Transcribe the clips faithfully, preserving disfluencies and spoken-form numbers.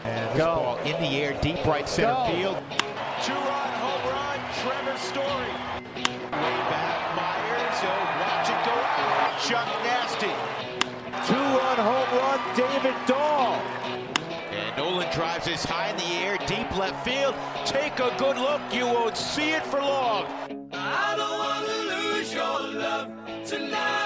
And this Go. ball in the air, deep right center Go. field. Two-run home run, Trevor Story. Way back, Myers. Oh, watch it go out. Chuck Nasty. Two-run home run, David Dahl. And Nolan drives this high in the air, deep left field. Take a good look. You won't see it for long. I don't want to lose your love tonight.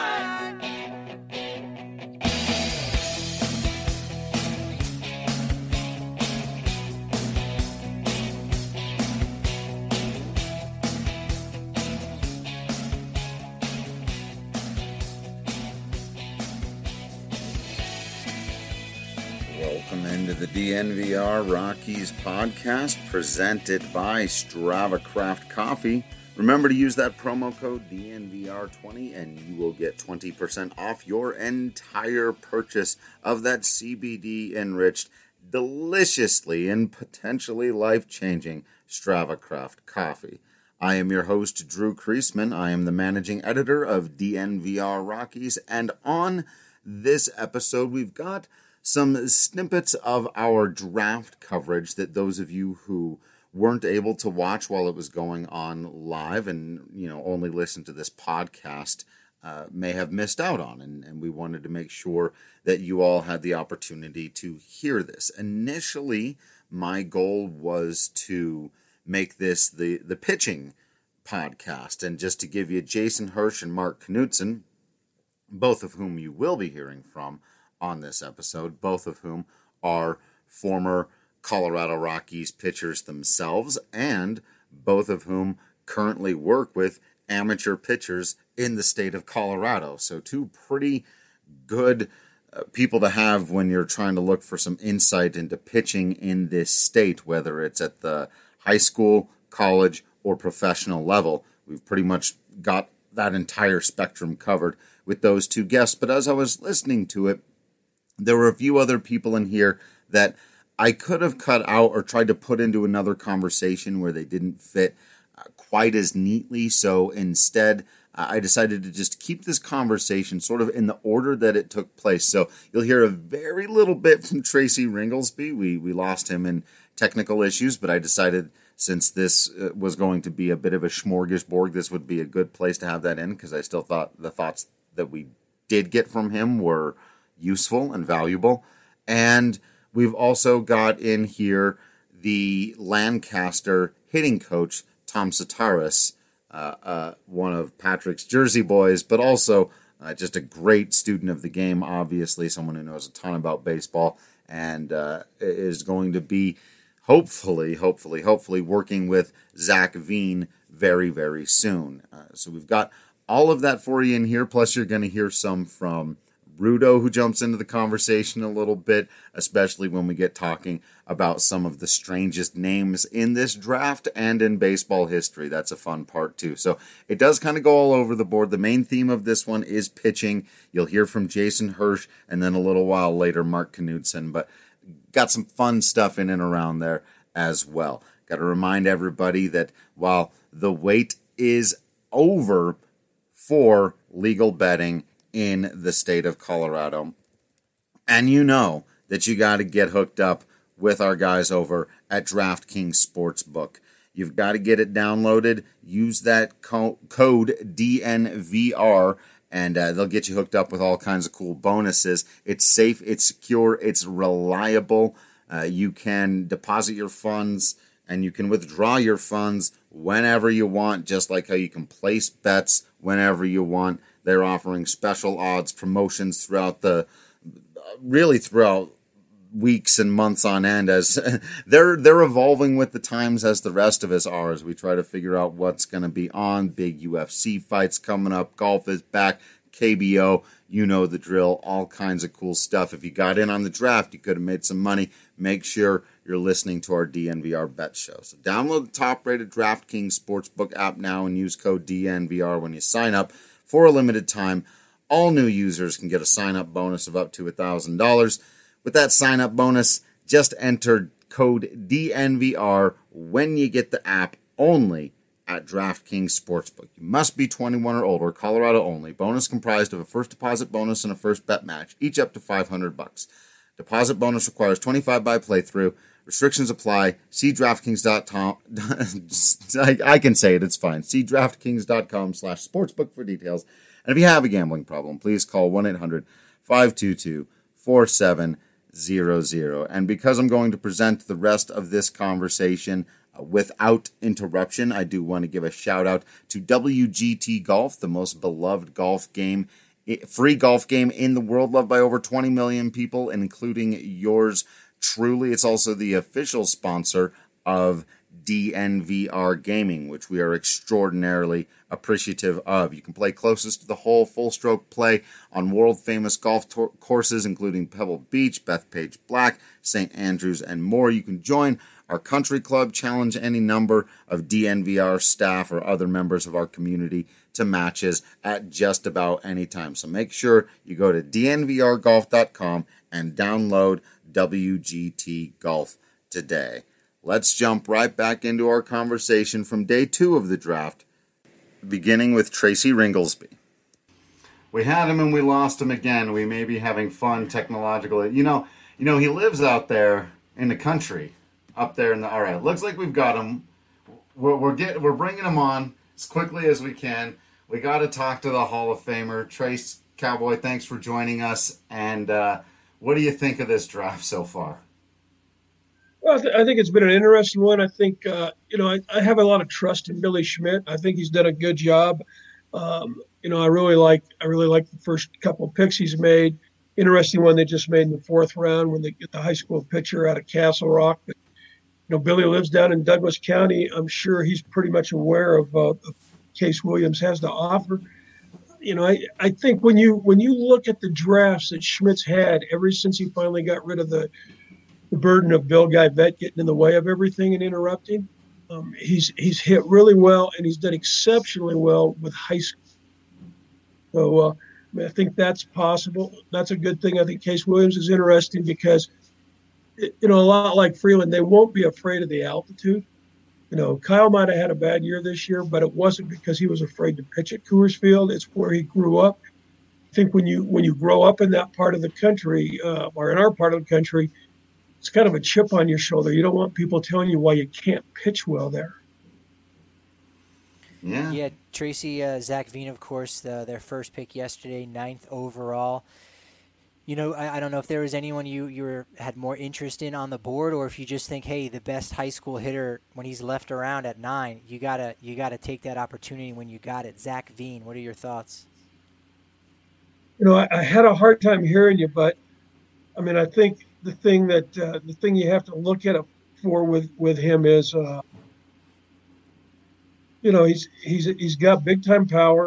Welcome into the D N V R Rockies podcast presented by Strava Craft Coffee. Remember to use that promo code D N V R twenty and you will get twenty percent off your entire purchase of that C B D-enriched, deliciously and potentially life-changing Strava Craft Coffee. I am your host, Drew Kreisman. I am the managing editor of D N V R Rockies, and on this episode we've got some snippets of our draft coverage that those of you who weren't able to watch while it was going on live and, you know, only listen to this podcast uh, may have missed out on. And, and we wanted to make sure that you all had the opportunity to hear this. Initially, my goal was to make this the, the pitching podcast. And just to give you Jason Hirsch and Mark Knudsen, both of whom you will be hearing from on this episode, both of whom are former Colorado Rockies pitchers themselves, and both of whom currently work with amateur pitchers in the state of Colorado. So two pretty good uh, people to have when you're trying to look for some insight into pitching in this state, whether it's at the high school, college, or professional level. We've pretty much got that entire spectrum covered with those two guests. But as I was listening to it, there were a few other people in here that I could have cut out or tried to put into another conversation where they didn't fit uh, quite as neatly. So instead, uh, I decided to just keep this conversation sort of in the order that it took place. So you'll hear a very little bit from Tracy Ringlesby. We, we lost him in technical issues, but I decided since this uh, was going to be a bit of a smorgasbord, this would be a good place to have that in, because I still thought the thoughts that we did get from him were useful and valuable. And we've also got in here the Lancaster hitting coach, Tom Sataris, uh, uh, one of Patrick's Jersey boys, but also uh, just a great student of the game, obviously, someone who knows a ton about baseball, and uh, is going to be hopefully, hopefully, hopefully working with Zach Veen very, very soon. Uh, so we've got all of that for you in here, plus you're going to hear some from Rudo, who jumps into the conversation a little bit, especially when we get talking about some of the strangest names in this draft and in baseball history. That's a fun part, too. So it does kind of go all over the board. The main theme of this one is pitching. You'll hear from Jason Hirsch, and then a little while later, Mark Knudsen. But got some fun stuff in and around there as well. Got to remind everybody that while the wait is over for legal betting in the state of Colorado, and you know that you got to get hooked up with our guys over at DraftKings Sportsbook. You've got to get it downloaded. Use that co- code D N V R, and uh, they'll get you hooked up with all kinds of cool bonuses. It's safe, it's secure, it's reliable. Uh, you can deposit your funds and you can withdraw your funds whenever you want, just like how you can place bets whenever you want. They're offering special odds, promotions throughout the, really throughout weeks and months on end, as they're they're evolving with the times as the rest of us are, as we try to figure out what's going to be on. Big U F C fights coming up, golf is back, K B O, you know the drill, all kinds of cool stuff. If you got in on the draft, you could have made some money. Make sure you're listening to our D N V R Bet Show. So download the top-rated DraftKings Sportsbook app now and use code D N V R when you sign up. For a limited time, all new users can get a sign-up bonus of up to one thousand dollars. With that sign-up bonus, just enter code D N V R when you get the app only at DraftKings Sportsbook. You must be twenty-one or older, Colorado only. Bonus comprised of a first deposit bonus and a first bet match, each up to five hundred bucks. Deposit bonus requires twenty-five by playthrough. Restrictions apply. See DraftKings dot com. I, I can say it. It's fine. See DraftKings dot com slash sportsbook for details. And if you have a gambling problem, please call one eight hundred five two two four seven zero zero. And because I'm going to present the rest of this conversation uh, without interruption, I do want to give a shout out to W G T Golf, the most beloved golf game, free golf game in the world, loved by over twenty million people, including yours truly. It's also the official sponsor of D N V R Gaming, which we are extraordinarily appreciative of. You can play closest to the hole, full stroke play on world-famous golf tor- courses, including Pebble Beach, Bethpage Black, Saint Andrews, and more. You can join our country club, challenge any number of D N V R staff or other members of our community to matches at just about any time. So make sure you go to D N V R golf dot com and download W G T Golf today. Let's jump right back into our conversation from day two of the draft, beginning with Tracy Ringolsby. We had him and we lost him again. We may be having fun technologically. You know, you know, he lives out there in the country, up there in the. All right, looks like we've got him. We're we're get we're bringing him on as quickly as we can. We got to talk to the Hall of Famer, Trace Cowboy. Thanks for joining us. And uh, what do you think of this draft so far? Well, I, th- I think it's been an interesting one. I think, uh, you know, I, I have a lot of trust in Billy Schmidt. I think he's done a good job. Um, you know, I really like I really like the first couple of picks he's made. Interesting one they just made in the fourth round when they get the high school pitcher out of Castle Rock. But, you know, Billy lives down in Douglas County. I'm sure he's pretty much aware of uh, of Case Williams has to offer. You know, I, I think when you when you look at the drafts that Schmidt's had ever since he finally got rid of the the burden of Bill Guy Vet getting in the way of everything and interrupting. Um, he's he's hit really well, and he's done exceptionally well with high school. So uh, I, mean, I think that's possible. That's a good thing. I think Case Williams is interesting because, it, you know, a lot like Freeland, they won't be afraid of the altitude. You know, Kyle might have had a bad year this year, but it wasn't because he was afraid to pitch at Coors Field. It's where he grew up. I think when you when you grow up in that part of the country, uh, or in our part of the country, it's kind of a chip on your shoulder. You don't want people telling you why you can't pitch well there. Yeah. Yeah, Tracy, uh, Zach Veen, of course, the, their first pick yesterday, ninth overall. You know, I, I don't know if there was anyone you, you were, had more interest in on the board, or if you just think, hey, the best high school hitter when he's left around at nine, you gotta you gotta take that opportunity when you got it. Zach Veen, what are your thoughts? You know, I, I had a hard time hearing you, but I mean, I think the thing that uh, the thing you have to look at it for with, with him is, uh, you know, he's he's he's got big time power.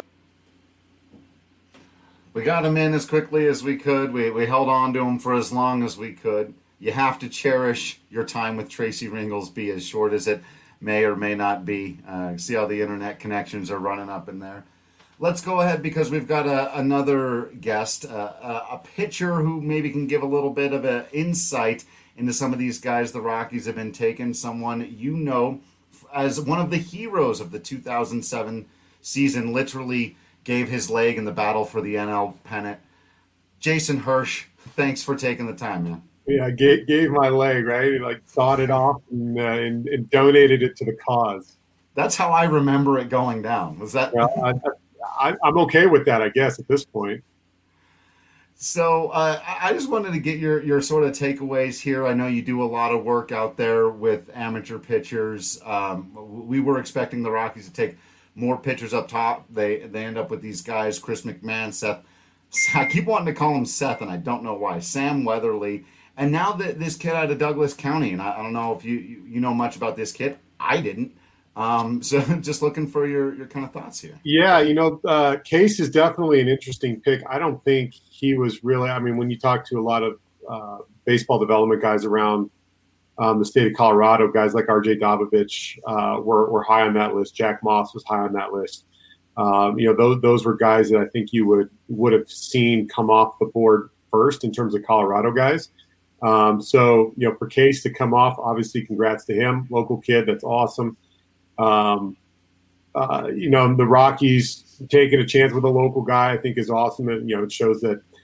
We got him in as quickly as we could. We we held on to him for as long as we could. You have to cherish your time with Tracy Ringolsby, as short as it may or may not be. Uh, see how the internet connections are running up in there. Let's go ahead because we've got a, another guest, uh, a, a pitcher who maybe can give a little bit of an insight into some of these guys the Rockies have been taking. Someone you know as one of the heroes of the two thousand seven season, literally gave his leg in the battle for the N L pennant. Jason Hirsch, thanks for taking the time, man. Yeah, gave, gave my leg, right? He, like, sawed it off and, uh, and, and donated it to the cause. That's how I remember it going down. Was that? Well, I, I, I'm okay with that, I guess, at this point. So uh, I just wanted to get your, your sort of takeaways here. I know you do a lot of work out there with amateur pitchers. Um, we were expecting the Rockies to take more pitchers up top. They they end up with these guys, Chris McMahon, Seth. I keep wanting to call him Seth, and I don't know why. Sam Weatherly. And now that this kid out of Douglas County, and I, I don't know if you, you, you know much about this kid. I didn't. Um, so just looking for your, your kind of thoughts here. Yeah, you know, uh, Case is definitely an interesting pick. I don't think he was really – I mean, when you talk to a lot of uh, baseball development guys around um, the state of Colorado, guys like R J Dobovich uh, were, were high on that list. Jack Moss was high on that list. Um, you know, those those were guys that I think you would, would have seen come off the board first in terms of Colorado guys. Um, so, you know, for Case to come off, obviously congrats to him. Local kid, that's awesome. Um, uh, you know, the Rockies taking a chance with a local guy, I think is awesome. And, you know, it shows that,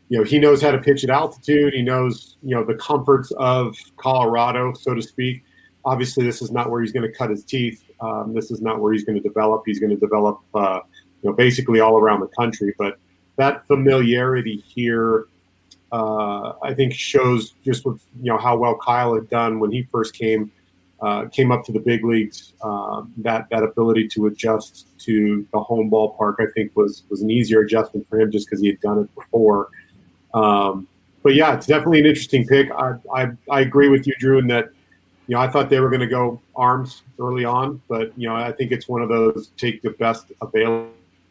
you know, he knows how to pitch at altitude. He knows, you know, the comforts of Colorado, so to speak. Obviously, this is not where he's going to cut his teeth. Um, this is not where he's going to develop. He's going to develop, uh, you know, basically all around the country. But that familiarity here, uh, I think, shows just what, you know, how well Kyle had done when he first came uh, came up to the big leagues. Uh, that that ability to adjust to the home ballpark, I think, was was an easier adjustment for him just because he had done it before. Um, but yeah, it's definitely an interesting pick. I I, I agree with you, Drew, in that. You know, I thought they were going to go arms early on, but, you know, I think it's one of those take the best available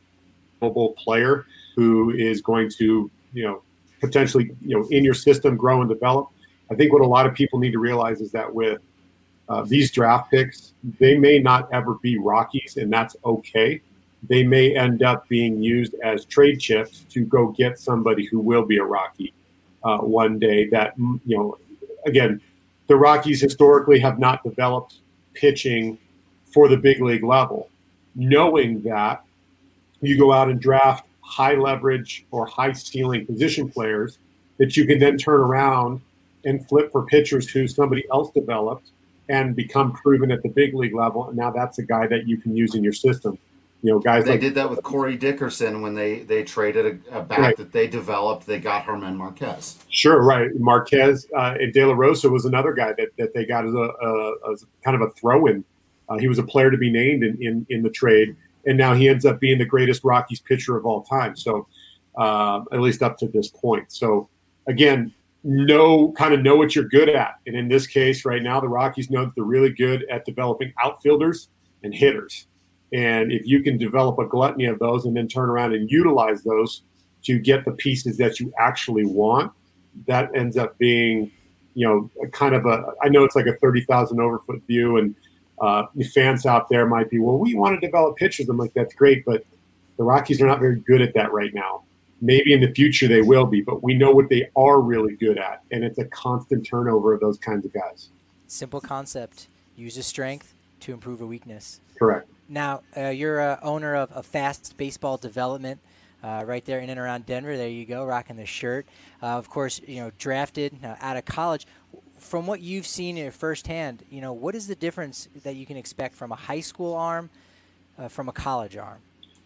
player who is going to, you know, potentially, you know, in your system, grow and develop. I think what a lot of people need to realize is that with uh, these draft picks, they may not ever be Rockies, and that's okay. They may end up being used as trade chips to go get somebody who will be a Rocky uh, one day that, you know, again, the Rockies historically have not developed pitching for the big league level. Knowing that, you go out and draft high leverage or high ceiling position players that you can then turn around and flip for pitchers who somebody else developed and become proven at the big league level. And now that's a guy that you can use in your system. You know, guys they like, did that with Corey Dickerson when they, they traded a, a bat right. that they developed. They got Herman Marquez. Sure, right. Marquez uh, and De La Rosa was another guy that, that they got as a, a as kind of a throw-in. Uh, he was a player to be named in, in, in the trade, and now he ends up being the greatest Rockies pitcher of all time. So uh, at least up to this point. So again, know kind of know what you're good at. And in this case, right now, the Rockies know that they're really good at developing outfielders and hitters. And if you can develop a gluttony of those and then turn around and utilize those to get the pieces that you actually want, that ends up being, you know, kind of a, I know it's like a thirty thousand overfoot view, and uh, the fans out there might be, well, we want to develop pitchers. I'm like, that's great, but the Rockies are not very good at that right now. Maybe in the future they will be, but we know what they are really good at, and it's a constant turnover of those kinds of guys. Simple concept. Use a strength to improve a weakness. Correct. Now, uh, you're a owner of a Fast Baseball Development uh, right there in and around Denver. There you go, rocking the shirt. Uh, of course, you know, drafted uh, out of college. From what you've seen in firsthand, you know, what is the difference that you can expect from a high school arm uh, from a college arm?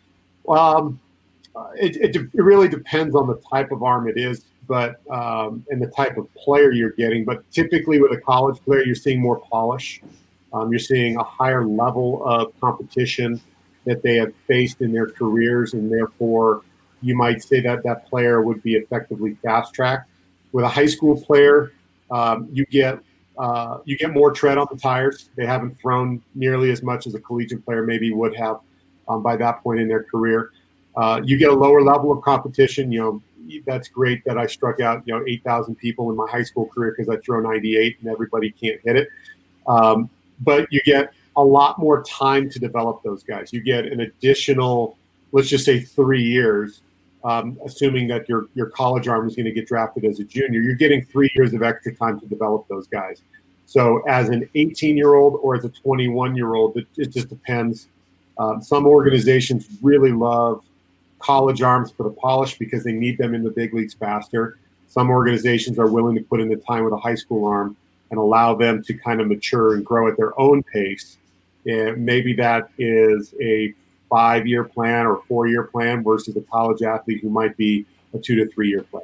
Um, it, it, it really depends on the type of arm it is, but um, and the type of player you're getting. But typically with a college player, you're seeing more polish. Um, you're seeing a higher level of competition that they have faced in their careers, and therefore you might say that that player would be effectively fast-tracked. With a high school player, um, you get uh, you get more tread on the tires. They haven't thrown nearly as much as a collegiate player maybe would have um, by that point in their career. Uh, you get a lower level of competition. You know, that's great that I struck out, you know, eight thousand people in my high school career because I throw ninety-eight and everybody can't hit it. Um, But you get a lot more time to develop those guys. You get an additional, let's just say three years, um, assuming that your your college arm is going to get drafted as a junior. You're getting three years of extra time to develop those guys. So as an eighteen-year-old or as a twenty-one-year-old, it, it just depends. Um, some organizations really love college arms for the polish because they need them in the big leagues faster. Some organizations are willing to put in the time with a high school arm and allow them to kind of mature and grow at their own pace. And maybe that is a five-year plan or four-year plan versus a college athlete who might be a two to three-year plan.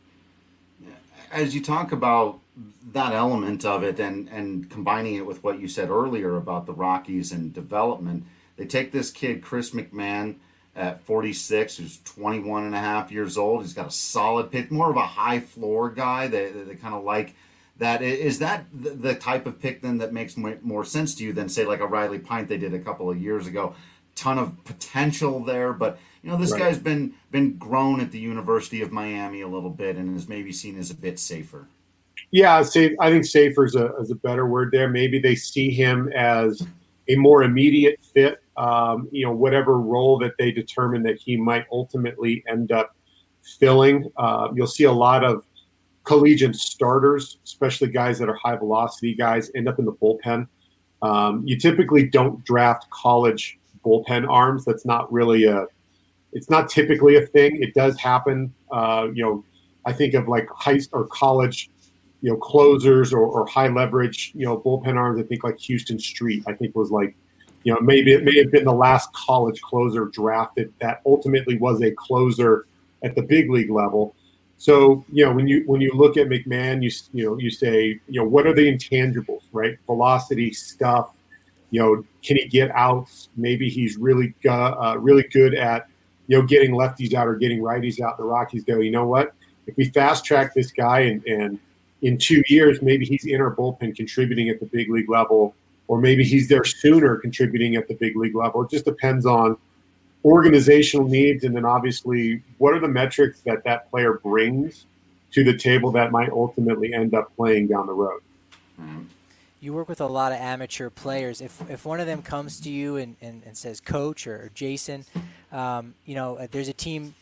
As you talk about that element of it and, and combining it with what you said earlier about the Rockies and development, they take this kid, Chris McMahon, at forty-six, who's twenty-one and a half years old. He's got a solid pitch, more of a high floor guy. They, they, they kind of like that. Is that the type of pick then that makes more sense to you than say like a Riley Pint they did a couple of years ago? Ton of potential there, but you know this right. guy's been been grown at the University of Miami a little bit and is maybe seen as a bit safer. Yeah, safe. I think safer is a, is a better word there. Maybe they see him as a more immediate fit. Um, you know, whatever role that they determine that he might ultimately end up filling. Uh, you'll see a lot of collegiate starters, especially guys that are high velocity guys, end up in the bullpen. Um, you typically don't draft college bullpen arms. That's not really a, it's not typically a thing. It does happen. Uh, you know, I think of like high or college, you know, closers or, or high leverage, you know, bullpen arms. I think like Houston Street, I think was like, you know, maybe it may have been the last college closer drafted that ultimately was a closer at the big league level. So, you know, when you when you look at McMahon, you you know, you say, you know, what are the intangibles, right? Velocity, stuff. You know, can he get outs? Maybe he's really uh, really good at, you know, getting lefties out or getting righties out. The Rockies go, you know what? If we fast track this guy and, and in two years, maybe he's in our bullpen contributing at the big league level, or maybe he's there sooner contributing at the big league level. It just depends on organizational needs, and then obviously what are the metrics that that player brings to the table that might ultimately end up playing down the road. You work with a lot of amateur players. If if one of them comes to you and, and, and says, Coach or, or Jason, um, you know, there's a team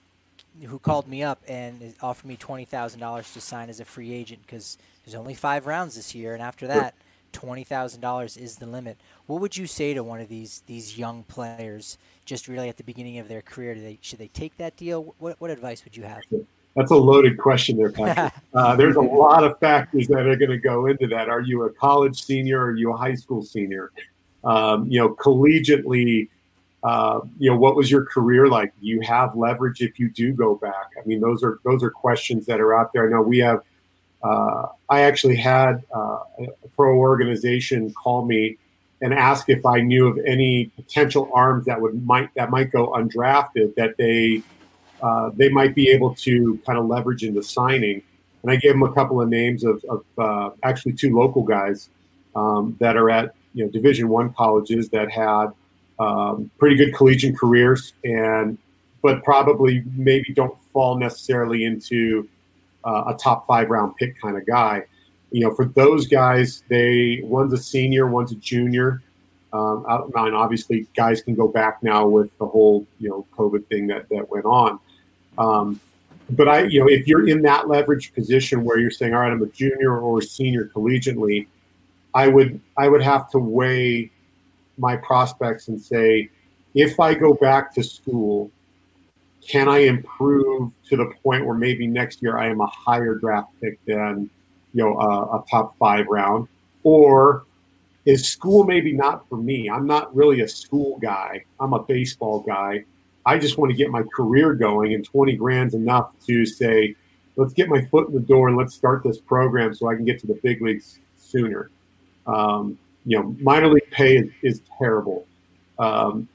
who called me up and offered me twenty thousand dollars to sign as a free agent because there's only five rounds this year, and after that, twenty thousand dollars is the limit. What would you say to one of these these young players just really at the beginning of their career? Do they, should they take that deal? What, what advice would you have? That's a loaded question there, Patrick. uh, there's a lot of factors that are going to go into that. Are you a college senior? Or are you a high school senior? Um, you know, collegiately, uh, you know, what was your career like? Do you have leverage if you do go back? I mean, those are those are questions that are out there. I know we have. Uh, I actually had uh, a pro organization call me and ask if I knew of any potential arms that would might that might go undrafted that they uh, they might be able to kind of leverage into signing. And I gave them a couple of names of, of uh, actually two local guys um, that are at you know Division One colleges that had um, pretty good collegiate careers, and but probably maybe don't fall necessarily into uh, a top five round pick kind of guy. You know, for those guys, they one's a senior, one's a junior. Um, and obviously, guys can go back now with the whole you know COVID thing that that went on. Um, but I, you know, if you're in that leverage position where you're saying, all right, I'm a junior or a senior collegiately, I would I would have to weigh my prospects and say, if I go back to school, can I improve to the point where maybe next year I am a higher draft pick than you know, a, a top five round, or is school maybe not for me? I'm not really a school guy. I'm a baseball guy. I just want to get my career going, and twenty grand's enough to say, let's get my foot in the door and let's start this program so I can get to the big leagues sooner. Um, you know, minor league pay is, is terrible. Um,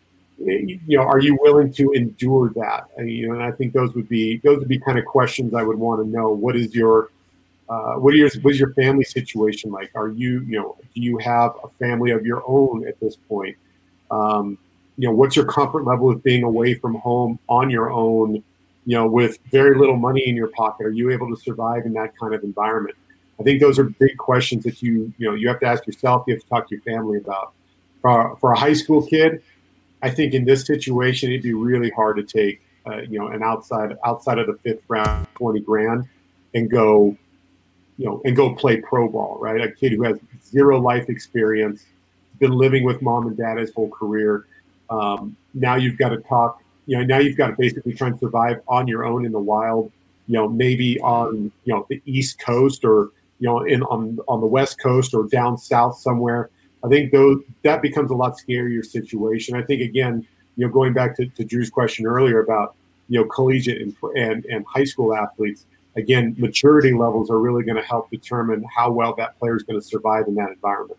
you know, are you willing to endure that? And, you know, and I think those would be those would be kind of questions I would want to know. What is your Uh, what, are your, what is your family situation like? Are you, you know, do you have a family of your own at this point? Um, you know, what's your comfort level of being away from home on your own, you know, with very little money in your pocket? Are you able to survive in that kind of environment? I think those are big questions that you, you know, you have to ask yourself, you have to talk to your family about. For, for a high school kid, I think in this situation, it'd be really hard to take, uh, you know, an outside, outside of the fifth round, twenty grand and go, you know, and go play pro ball, right? A kid who has zero life experience, been living with mom and dad his whole career. Um, now you've got to talk, you know, now you've got to basically try and survive on your own in the wild, you know, maybe on, you know, the East Coast or, you know, in on, on the West Coast or down south somewhere. I think those, that becomes a lot scarier situation. I think, again, you know, going back to, to Drew's question earlier about, you know, collegiate and, and, and high school athletes, again, maturity levels are really going to help determine how well that player is going to survive in that environment.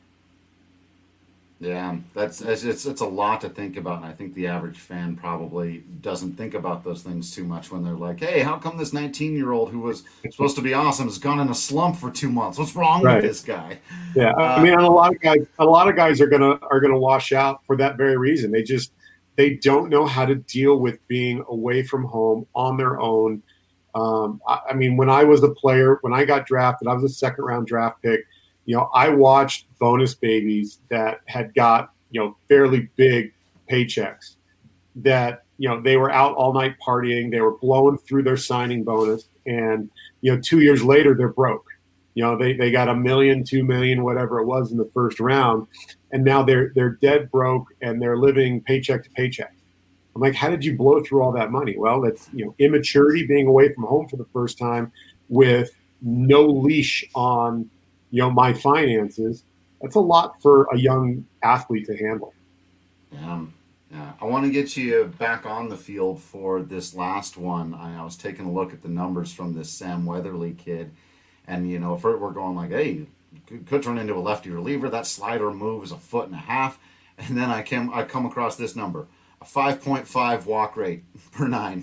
Yeah, that's it's, it's it's a lot to think about, and I think the average fan probably doesn't think about those things too much when they're like, "Hey, how come this nineteen-year-old who was supposed to be awesome has gone in a slump for two months? What's wrong right. with this guy?" Yeah, uh, I mean, a lot of guys, a lot of guys are gonna are gonna wash out for that very reason. They just they don't know how to deal with being away from home on their own. Um, I, I mean, when I was a player, when I got drafted, I was a second round draft pick. You know, I watched bonus babies that had got, you know, fairly big paychecks that, you know, they were out all night partying. They were blowing through their signing bonus. And, you know, two years later, they're broke. You know, they, they got a million, two million, whatever it was in the first round. And now they're, they're dead broke and they're living paycheck to paycheck. I'm like, how did you blow through all that money? Well, that's, you know, immaturity, being away from home for the first time with no leash on, you know, my finances. That's a lot for a young athlete to handle. Yeah. Yeah. I want to get you back on the field for this last one. I, I was taking a look at the numbers from this Sam Weatherly kid. And, you know, if we're going like, hey, could, could turn into a lefty reliever. That slider move is a foot and a half. And then I came, I come across this number, a five point five walk rate per nine.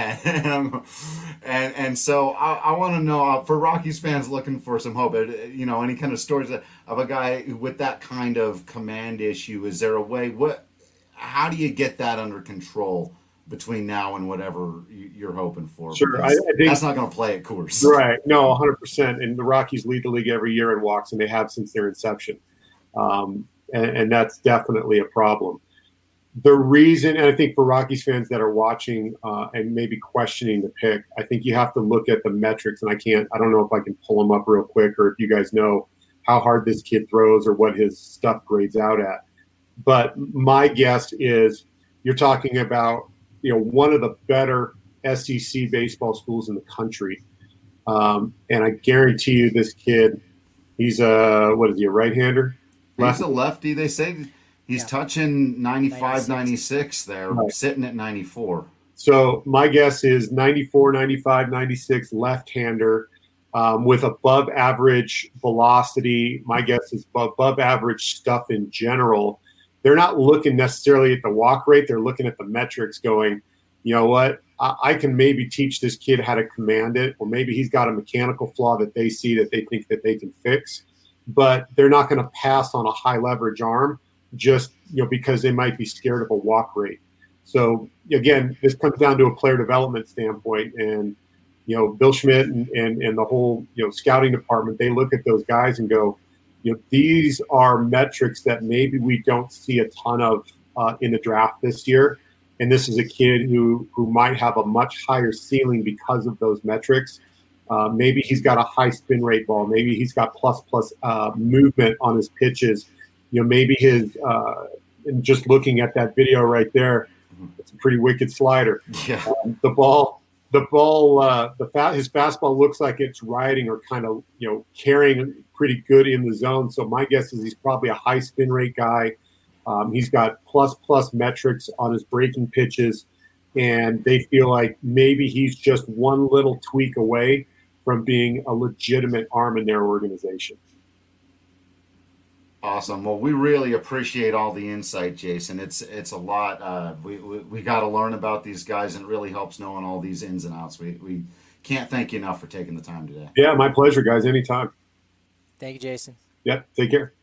And and, and so I, I want to know, uh, for Rockies fans looking for some hope, uh, you know, any kind of stories of a guy with that kind of command issue. Is there a way, what, how do you get that under control between now and whatever you're hoping for? Sure. I, I think that's not going to play at Coors. Right. No, one hundred percent. And the Rockies lead the league every year in walks, and they have since their inception. Um, and, and that's definitely a problem. The reason, and I think for Rockies fans that are watching uh, and maybe questioning the pick, I think you have to look at the metrics. And I can't, I don't know if I can pull them up real quick, or if you guys know how hard this kid throws or what his stuff grades out at. But my guess is you're talking about, you know, one of the better S E C baseball schools in the country. Um, and I guarantee you this kid, he's a, what is he, a right-hander? He's a lefty. They say he's yeah. touching ninety-five, ninety-six there, right. Sitting at ninety-four. So my guess is ninety-four, ninety-five, ninety-six left-hander um, with above average velocity. My guess is above average stuff in general. They're not looking necessarily at the walk rate. They're looking at the metrics going, you know what, I, I can maybe teach this kid how to command it, or maybe he's got a mechanical flaw that they see that they think that they can fix. But they're not going to pass on a high leverage arm just, you know, because they might be scared of a walk rate. So again, this comes down to a player development standpoint, and, you know, Bill Schmidt and, and, and the whole, you know, scouting department, they look at those guys and go, you know, these are metrics that maybe we don't see a ton of uh, in the draft this year. And this is a kid who, who might have a much higher ceiling because of those metrics. Uh, maybe he's got a high spin rate ball. Maybe he's got plus plus uh, movement on his pitches. You know, maybe his uh, and just looking at that video right there, it's a pretty wicked slider. Yeah. Um, the ball, the ball, uh, the fa- his fastball looks like it's riding or kind of, you know, carrying pretty good in the zone. So my guess is he's probably a high spin rate guy. Um, he's got plus plus metrics on his breaking pitches, and they feel like maybe he's just one little tweak away from being a legitimate arm in their organization. Awesome. Well, we really appreciate all the insight, Jason. It's it's a lot. Uh, we we, we got to learn about these guys, and it really helps knowing all these ins and outs. We we can't thank you enough for taking the time today. Yeah, my pleasure, guys. Anytime. Thank you, Jason. Yep. Take care.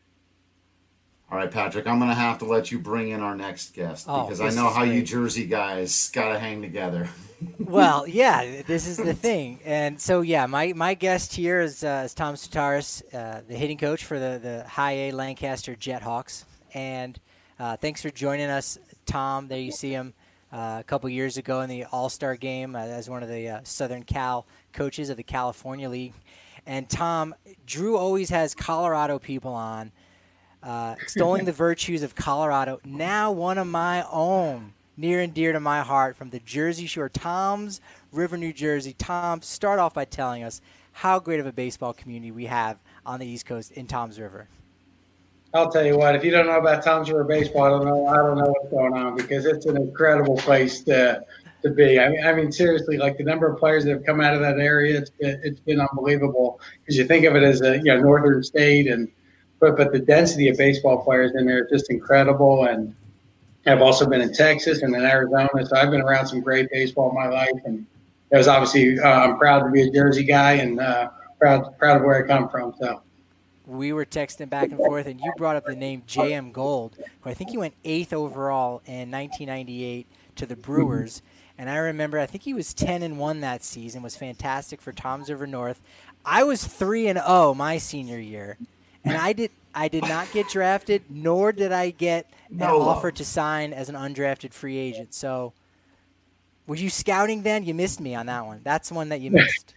All right, Patrick, I'm going to have to let you bring in our next guest oh, because I know how great. you Jersey guys got to hang together. Well, yeah, this is the thing. And so, yeah, my, my guest here is, uh, is Tom Sutaris, uh, the hitting coach for the, the High A Lancaster Jethawks. And uh, thanks for joining us, Tom. There you see him uh, a couple years ago in the All-Star game uh, as one of the uh, Southern Cal coaches of the California League. And, Tom, Drew always has Colorado people on. Uh, extolling the virtues of Colorado. Now one of my own, near and dear to my heart, from the Jersey Shore, Toms River, New Jersey. Tom, start off by telling us how great of a baseball community we have on the East Coast in Toms River. I'll tell you what, if you don't know about Toms River baseball, I don't know, I don't know what's going on, because it's an incredible place to to be. I mean, I mean, seriously, like the number of players that have come out of that area, it's been, it's been unbelievable, because you think of it as a, you know, northern state, and But but the density of baseball players in there is just incredible. And I've also been in Texas and in Arizona, so I've been around some great baseball in my life. And it was obviously uh, I'm proud to be a Jersey guy, and uh, proud proud of where I come from. So we were texting back and forth, and you brought up the name J M Gold, who I think he went eighth overall in nineteen ninety-eight to the Brewers. And I remember, I think he was ten and one that season, was fantastic for Toms River North. I was three and oh my senior year. And I did I did not get drafted, nor did I get an no offer to sign as an undrafted free agent. So were you scouting then? You missed me on that one. That's the one that you missed.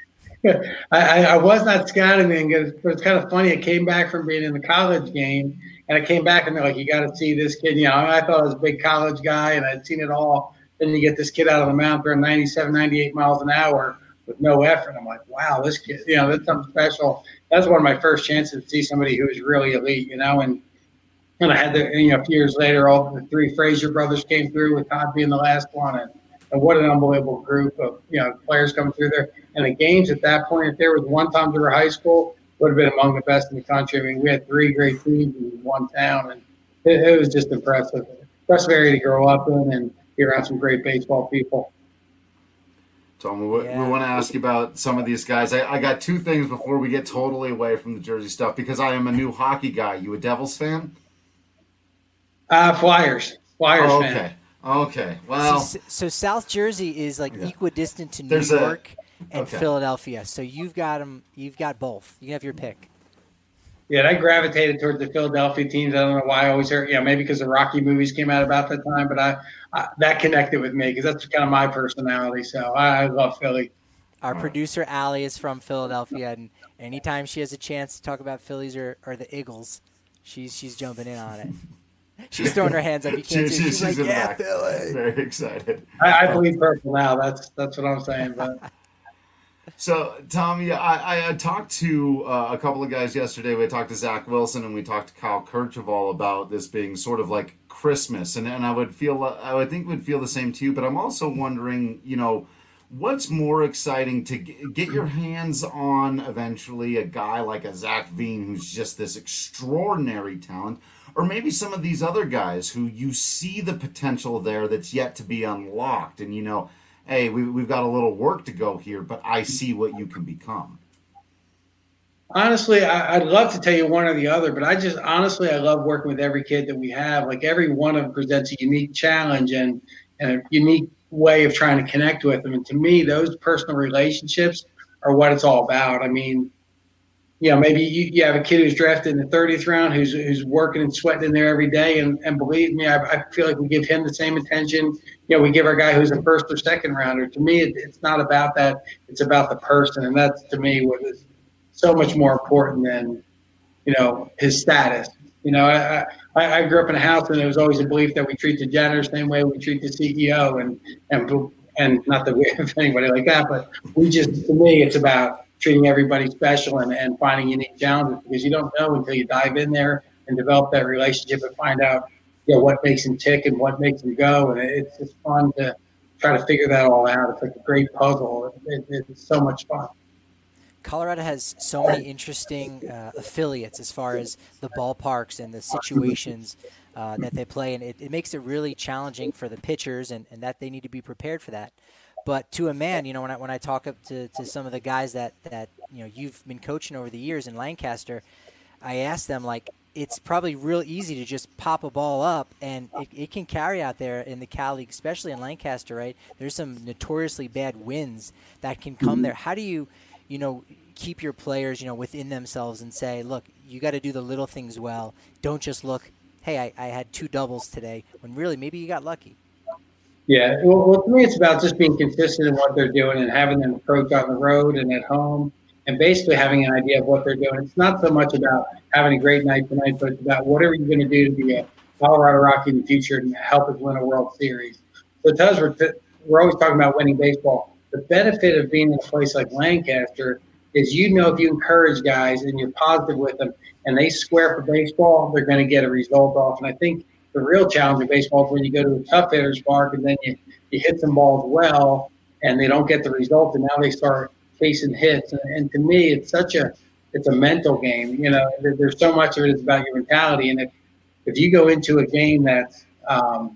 I, I was not scouting then, but it's kind of funny. I came back from being in the college game, and I came back and they're like, you got to see this kid. You know, I thought I was a big college guy, and I'd seen it all Then you get this kid out of the mound throwing ninety-seven, ninety-eight miles an hour with no effort. I'm like, wow, this kid, you know, that's something special. That's one of my first chances to see somebody who was really elite, you know, and and I had the, you know, a few years later, all the three Frazier brothers came through, with Todd being the last one. And, and what an unbelievable group of, you know, players coming through there. And the games at that point, if there was one Tom Driver High School, would have been among the best in the country. I mean, we had three great teams in one town, and it, it was just impressive. Impressive area to grow up in and be around some great baseball people. Tom, we, Yeah. we want to ask you about some of these guys. I, I got two things before we get totally away from the Jersey stuff, because I am a new hockey guy. You a Devils fan? Uh, Flyers. Flyers Oh, fan. okay. Okay. Well, so, so South Jersey is like Yeah. equidistant to New There's a- York and okay. Philadelphia. So you've got them. You've got both. You can have your pick. Yeah, and I gravitated towards the Philadelphia teams. I don't know why I always heard, you know, maybe because the Rocky movies came out about that time, but I, I that connected with me because that's kind of my personality. So I, I love Philly. Our producer Allie is from Philadelphia, and anytime she has a chance to talk about Phillies or, or the Eagles, she's she's jumping in on it. She's throwing her hands up. You can't she- see. she- She's, like, in the yeah, back. Philly. Very excited. I, I believe purple now. That's that's what I'm saying. But So, Tommy, I, I talked to uh, a couple of guys yesterday. We talked to Zach Wilson and we talked to Kyle Kercheval about this being sort of like Christmas, and and I would feel I would think would feel the same too. But I'm also wondering, you know, what's more exciting to g- get your hands on eventually a guy like a Zach Veen, who's just this extraordinary talent, or maybe some of these other guys who you see the potential there that's yet to be unlocked, and you know, hey, we, we've got a little work to go here, but I see what you can become. honestly, I, I'd love to tell you one or the other, but I just honestly I love working with every kid that we have. Like every one of them presents a unique challenge and, and a unique way of trying to connect with them. And to me, those personal relationships are what it's all about. I mean, you know, maybe you, you have a kid who's drafted in the thirtieth round who's who's working and sweating in there every day. And, and believe me, I, I feel like we give him the same attention. You know, we give our guy who's a first or second rounder. To me, it, it's not about that. It's about the person. And that's, to me, what is so much more important than, you know, his status. You know, I, I, I grew up in a house and there was always a belief that we treat the janitor the same way we treat the C E O. And, and, and not that we have anybody like that, but we just, to me, it's about treating everybody special and, and finding unique challenges, because you don't know until you dive in there and develop that relationship and find out, you know, what makes them tick and what makes them go. And it's just fun to try to figure that all out. It's like a great puzzle. It, it, it's so much fun. Colorado has so many interesting uh, affiliates as far as the ballparks and the situations uh, that they play, and it, it makes it really challenging for the pitchers, and, and that they need to be prepared for that. But to a man, you know, when I when I talk up to, to some of the guys that, that you know you've been coaching over the years in Lancaster, I ask them, like, it's probably real easy to just pop a ball up, and it, it can carry out there in the Cal League, especially in Lancaster, right? There's some notoriously bad winds that can come there. How do you, you know, keep your players, you know, within themselves and say, look, you got to do the little things well. Don't just look, hey, I, I had two doubles today, when really maybe you got lucky. Yeah, well, well, to me, it's about just being consistent in what they're doing and having them approach on the road and at home, and basically having an idea of what they're doing. It's not so much about having a great night tonight, but it's about whatever you're going to do to be a Colorado Rocky in the future and help us win a World Series. So because we're, we're always talking about winning baseball, the benefit of being in a place like Lancaster is, you know, if you encourage guys and you're positive with them and they square for baseball, they're going to get a result off. And I think the real challenge in baseball is when you go to a tough hitter's park and then you, you hit some balls well and they don't get the result, and now they start chasing hits. And, and to me, it's such a it's a mental game. You know, there, there's so much of it is about your mentality. And if if you go into a game that's um,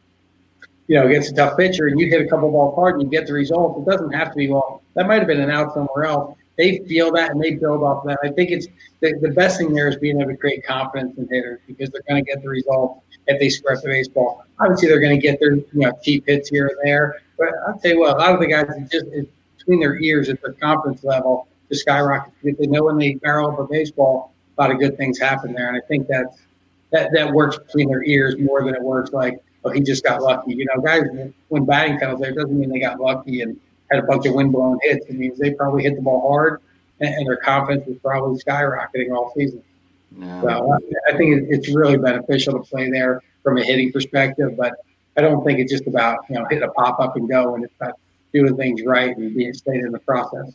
you know, against a tough pitcher and you hit a couple balls hard and you get the result, it doesn't have to be, well, that might have been an out somewhere else. They feel that and they build off of that. I think it's the, the best thing there is being able to create confidence in hitters, because they're going to get the result if they square the baseball. Obviously, they're going to get their, you know, cheap hits here and there. But I'll tell you what, a lot of the guys, it's just it's between their ears, at their confidence level to skyrocket. If they know when they barrel up a baseball, a lot of good things happen there. And I think that's, that that works between their ears more than it works like, oh, he just got lucky. You know, guys, when batting comes there, it doesn't mean they got lucky and had a bunch of wind-blown hits. It means they probably hit the ball hard, and, and their confidence was probably skyrocketing all season. Yeah. So I think it's really beneficial to play there from a hitting perspective. But I don't think it's just about, you know, hitting a pop up and go, and it's about doing things right and being stayed in the process.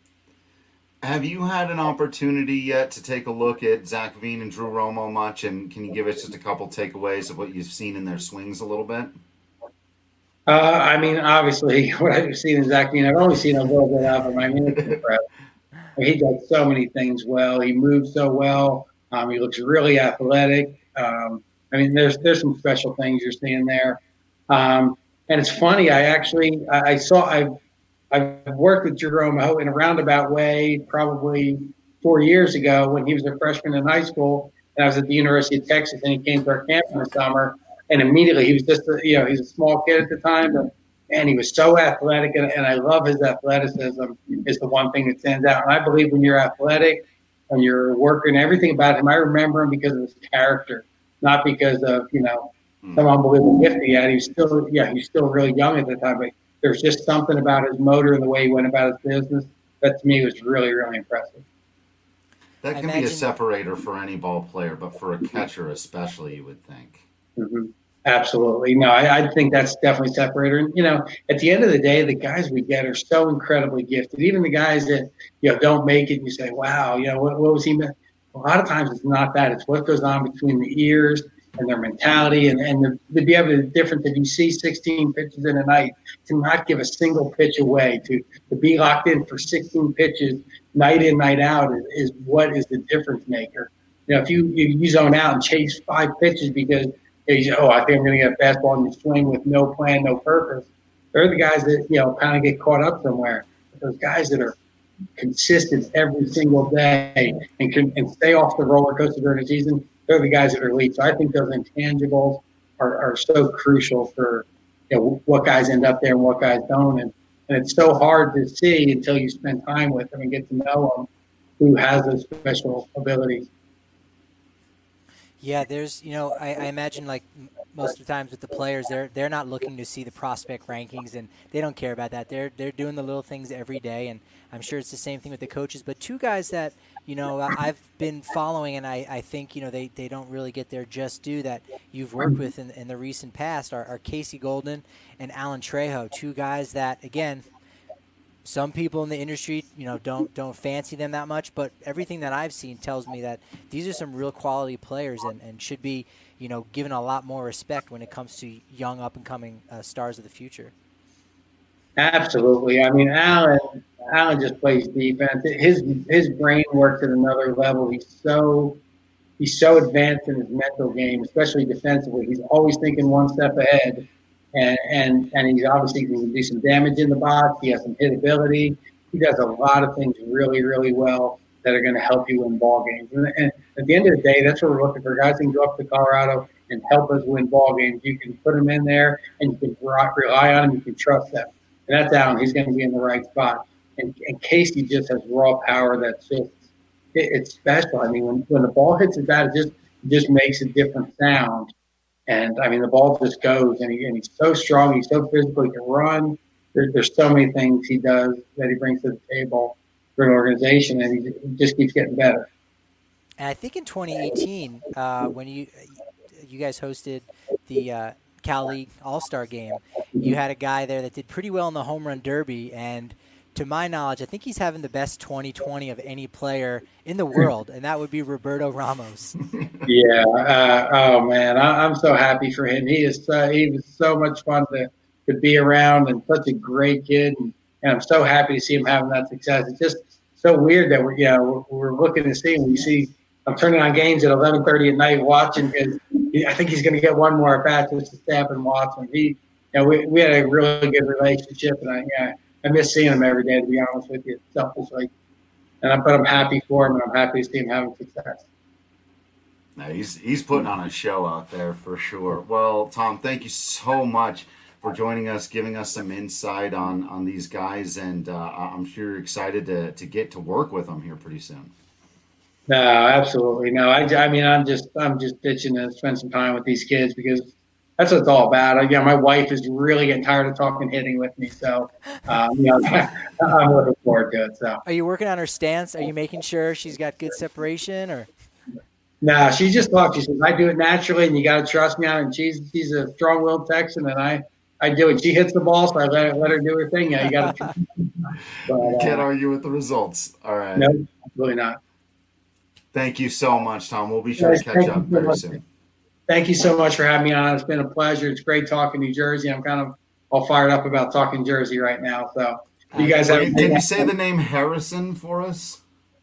Have you had an opportunity yet to take a look at Zach Veen and Drew Romo much? And can you give us just a couple takeaways of what you've seen in their swings a little bit? Uh, I mean, obviously, what I've seen in Zach Veen, I've only seen a little bit of him. I mean, it's impressive. I mean, he does so many things well. He moves so well. Um, he looks really athletic. Um, I mean, there's there's some special things you're seeing there. Um, and it's funny. I actually I, I saw I've I've worked with Jerome Ho in a roundabout way probably four years ago when he was a freshman in high school, and I was at the University of Texas, and he came to our camp in the summer, and immediately he was just a, you know he's a small kid at the time, but and he was so athletic, and, and I love his athleticism is the one thing that stands out. And I believe when you're athletic, when you're working, everything about him, I remember him because of his character, not because of you know some unbelievable gift he had. He was still yeah he's still really young at the time, but there's just something about his motor and the way he went about his business that to me was really, really impressive. That can be a separator for any ball player, but for a catcher especially, you would think. Mm-hmm. Absolutely. No, I, I think that's definitely a separator. And, you know, at the end of the day, the guys we get are so incredibly gifted. Even the guys that, you know, don't make it and you say, wow, you know, what, what was he – a lot of times it's not that. It's what goes on between the ears and their mentality, and, and the, to be able to difference if you see sixteen pitches in a night, to not give a single pitch away, to, to be locked in for sixteen pitches night in, night out is, is what is the difference maker. You know, if you, you, you zone out and chase five pitches because you say, oh, I think I'm going to get a fastball and you swing with no plan, no purpose, they're the guys that, you know, kind of get caught up somewhere. But those guys that are consistent every single day and can and stay off the roller coaster during the season, they're the guys that are elite. So I think those intangibles are, are so crucial for you know, what guys end up there and what guys don't. And, and it's so hard to see until you spend time with them and get to know them who has those special abilities. Yeah, there's, you know, I, I imagine like most of the times with the players, they're they're not looking to see the prospect rankings, and they don't care about that. They're they're doing the little things every day, and I'm sure it's the same thing with the coaches. But two guys that, you know, I've been following, and I, I think, you know, they, they don't really get their just due that you've worked with in, in the recent past are, are Casey Golden and Alan Trejo, two guys that, again, some people in the industry, you know, don't don't fancy them that much, but everything that I've seen tells me that these are some real quality players and, and should be, you know, given a lot more respect when it comes to young up-and-coming uh, stars of the future. Absolutely. I mean, Alan, Alan just plays defense. His his brain works at another level. He's so he's so advanced in his mental game, especially defensively. He's always thinking one step ahead. And, and and he's obviously going to do some damage in the box. He has some hit ability. He does a lot of things really, really well that are going to help you win ball games. And, and at the end of the day, that's what we're looking for. Guys can go up to Colorado and help us win ball games. You can put them in there, and you can rely on them. You can trust them. And that's Allen. He's going to be in the right spot. And, and Casey just has raw power that's just it, it's special. I mean, when, when the ball hits his bat, it just it just makes a different sound. And, I mean, the ball just goes, and, he, and he's so strong. He's so physical. He can run. There, there's so many things he does that he brings to the table for an organization, and he, he just keeps getting better. And I think in twenty eighteen, uh, when you you guys hosted the uh, Cal League All-Star Game, you had a guy there that did pretty well in the home run derby, and to my knowledge, I think he's having the best twenty twenty of any player in the world, and that would be Roberto Ramos. Yeah. Uh, oh, man. I, I'm so happy for him. He is uh, he was so much fun to, to be around and such a great kid, and, and I'm so happy to see him having that success. It's just so weird that we're, you know, we're, we're looking to see him. We see I'm turning on games at eleven thirty at night watching because I think he's going to get one more at bat just to stay up and watch him. He, you know, we, we had a really good relationship, and I, yeah, I miss seeing him every day, to be honest with you, selfishly. And I'm, but I'm happy for him, and I'm happy to see him having success. No, he's he's putting on a show out there for sure. Well, Tom, thank you so much for joining us, giving us some insight on, on these guys, and uh, I'm sure you're excited to to get to work with them here pretty soon. No, absolutely. No, I, I mean, I'm just I'm just itching to spend some time with these kids because that's what it's all about. I, yeah, my wife is really getting tired of talking hitting with me, so um, you know, I'm looking forward to it. So, are you working on her stance? Are you making sure she's got good separation, or? No, she just talks. She says, I do it naturally, and you got to trust me on it. And she's, she's a strong-willed Texan, and I, I do it. She hits the ball, so I let, let her do her thing. Yeah, you got to You can't uh, argue with the results. All right. No, really not. Thank you so much, Tom. We'll be sure yes, to catch up very soon. Thank you so much for having me on. It's been a pleasure. It's great talking New Jersey. I'm kind of all fired up about talking Jersey right now. So you guys have. Can, can you say the name Harrison for us?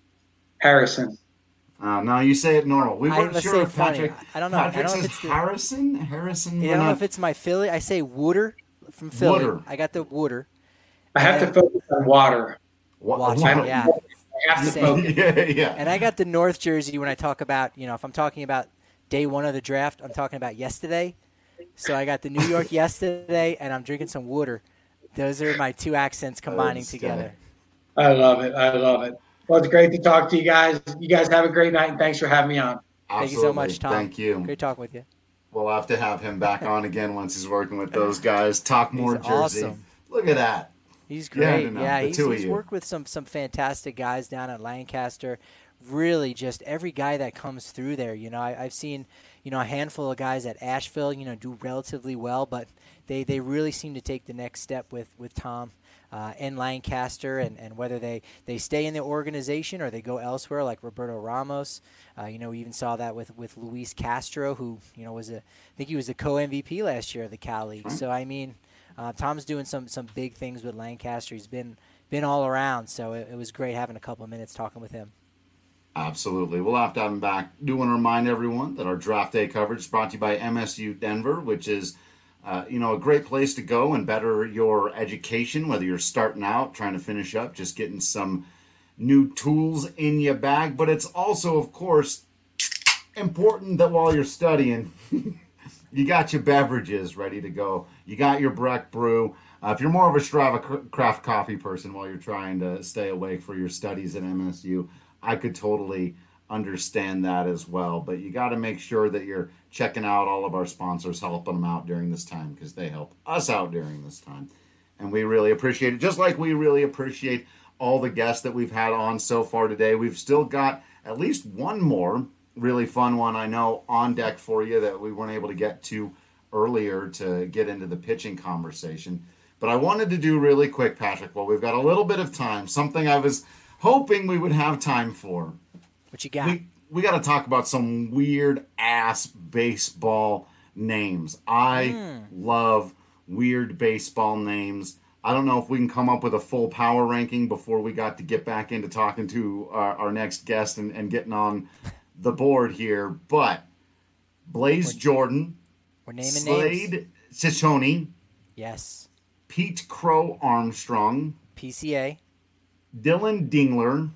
Harrison. Uh, no, you say it normal. We weren't sure if Patrick. I don't know. Patrick I don't says know if it's Harrison. The, Harrison. I don't know if it's my Philly. I say Wooder from Philly. Wooder. I got the Wooder. I have and, to focus on water. Water, water. yeah. I have to focus. yeah, yeah. And I got the North Jersey when I talk about, you know, if I'm talking about day one of the draft, I'm talking about yesterday. So I got the New York yesterday, and I'm drinking some Wooder. Those are my two accents combining together. I love it. I love it. Well, it's great to talk to you guys. You guys have a great night, and thanks for having me on. Absolutely. Thank you so much, Tom. Thank you. Great talking with you. We'll have to have him back on again once he's working with those guys. Talk more he's Jersey. Awesome. Look at that. He's great. Yeah, no, yeah the he's, two he's of you. worked with some some fantastic guys down at Lancaster. Really, just every guy that comes through there. You know, I, I've seen, you know, a handful of guys at Asheville, you know, do relatively well, but they, they really seem to take the next step with, with Tom uh, in Lancaster, and, and whether they, they stay in the organization or they go elsewhere, like Roberto Ramos. Uh, you know, we even saw that with, with Luis Castro, who, you know, was a, I think he was the co-M V P last year of the Cal League. So, I mean, uh, Tom's doing some, some big things with Lancaster. He's been, been all around, so it, it was great having a couple of minutes talking with him. Absolutely. We'll have to have him back. Do want to remind everyone that our draft day coverage is brought to you by M S U Denver, which is, uh, you know, a great place to go and better your education, whether you're starting out, trying to finish up, just getting some new tools in your bag. But it's also, of course, important that while you're studying, you got your beverages ready to go. You got your Breck Brew. Uh, if you're more of a Strava Craft Coffee person while you're trying to stay awake for your studies at M S U, I could totally understand that as well. But you got to make sure that you're checking out all of our sponsors, helping them out during this time, because they help us out during this time. And we really appreciate it, just like we really appreciate all the guests that we've had on so far today. We've still got at least one more really fun one, I know, on deck for you that we weren't able to get to earlier to get into the pitching conversation. But I wanted to do really quick, Patrick, while we've got a little bit of time, something I was hoping we would have time for. What you got? We, we got to talk about some weird-ass baseball names. I mm. love weird baseball names. I don't know if we can come up with a full power ranking before we got to get back into talking to our, our next guest and, and getting on the board here. But Blaze we're, Jordan, we're naming Slade names. Ciccone, yes, Pete Crow Armstrong, P C A, Dylan Dingler,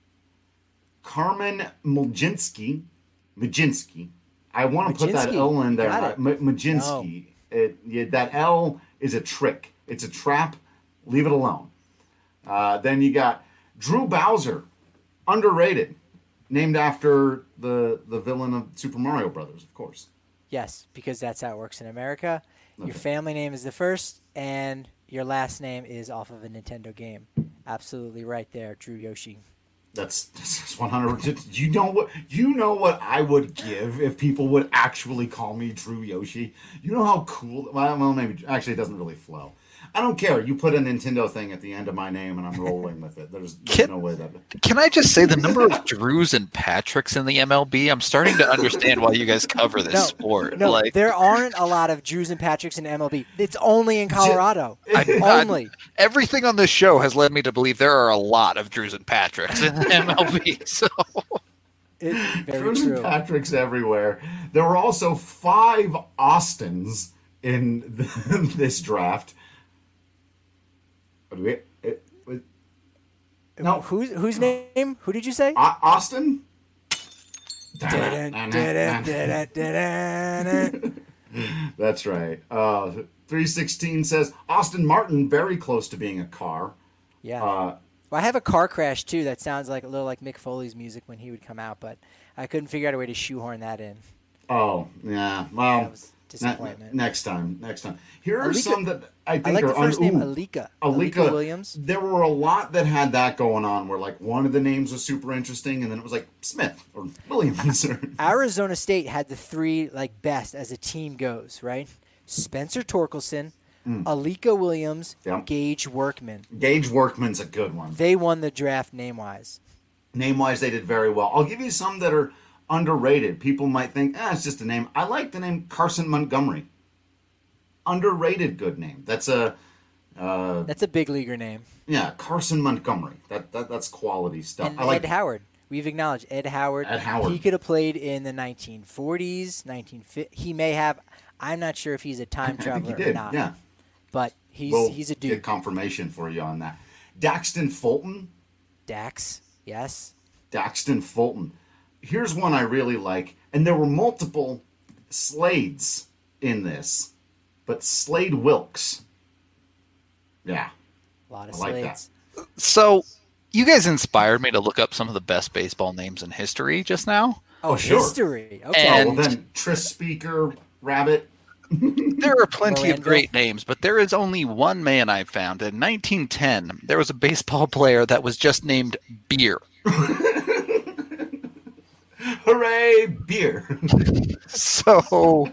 Carmen Mlodzinski, Mlodzinski. I want to put that L in there. M- Mlodzinski. No. It, yeah, that L is a trick. It's a trap. Leave it alone. Uh, then you got Drew Bowser, underrated, named after the the villain of Super Mario Brothers, of course. Yes, because that's how it works in America. Okay. Your family name is the first, and your last name is off of a Nintendo game. Absolutely right there, Drew Yoshi. That's, that's one hundred percent. You know what? You know what I would give if people would actually call me Drew Yoshi. You know how cool. Well, well maybe actually it doesn't really flow. I don't care. You put a Nintendo thing at the end of my name, and I'm rolling with it. There's, there's can, no way that. Can I just say the number of Drews and Patricks in the M L B? I'm starting to understand why you guys cover this no, sport. No, like, there aren't a lot of Drews and Patricks in M L B. It's only in Colorado. I, only. I, everything on this show has led me to believe there are a lot of Drews and Patricks in the M L B. So. It's very Drews true. and Patricks everywhere. There were also five Austins in the, this draft. We, it, it, no, who's whose name? Who did you say? Uh, Austin. That's right. Uh, three sixteen says Austin Martin very close to being a car. Yeah. Uh, well, I have a car crash too. That sounds like a little like Mick Foley's music when he would come out, but I couldn't figure out a way to shoehorn that in. Oh yeah. Well, that was disappointment. Ne- next time, next time. Here are Alika, some that I think I like are the first un- name, ooh, Alika. Alika. Alika Williams. There were a lot that had that going on, where like one of the names was super interesting, and then it was like Smith or Williams. Or... Arizona State had the three like best as a team goes, right? Spencer Torkelson, mm. Alika Williams, yep. Gage Workman. Gage Workman's a good one. They won the draft name-wise. Name-wise, they did very well. I'll give you some that are underrated. People might think, ah, it's just a name. I like the name Carson Montgomery. Underrated good name. That's a uh, that's a big leaguer name. Yeah, Carson Montgomery. That, that that's quality stuff. And I like Ed Howard. We've acknowledged Ed Howard. Ed Howard. He could have played in the nineteen forties, nineteen fifties. He may have. I'm not sure if he's a time I traveler think he did, or not. Yeah, but he's we'll he's a dude. Get confirmation for you on that. Daxton Fulton. Dax, yes. Daxton Fulton. Here's one I really like, and there were multiple Slades in this, but Slade Wilkes. Yeah, a lot of I like Slades. That. So, you guys inspired me to look up some of the best baseball names in history just now. Oh, oh sure. History. Okay. And oh, well, then Tris Speaker, Rabbit. There are plenty Miranda. of great names, but there is only one man I found. In nineteen ten, there was a baseball player that was just named Beer. Hooray, beer. So,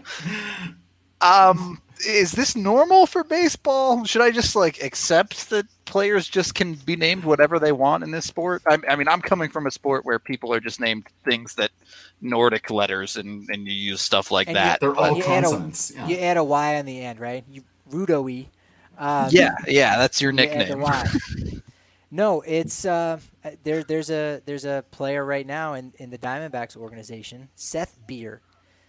um, is this normal for baseball? Should I just like accept that players just can be named whatever they want in this sport? I, I mean, I'm coming from a sport where people are just named things that Nordic letters and, and you use stuff like and that. They're all you consonants. Add a, yeah. You add a Y on the end, right? You Rudo-y. Um, yeah, yeah, that's your you add the nickname. Y. No, it's uh, there. There's a there's a player right now in, in the Diamondbacks organization, Seth Beer.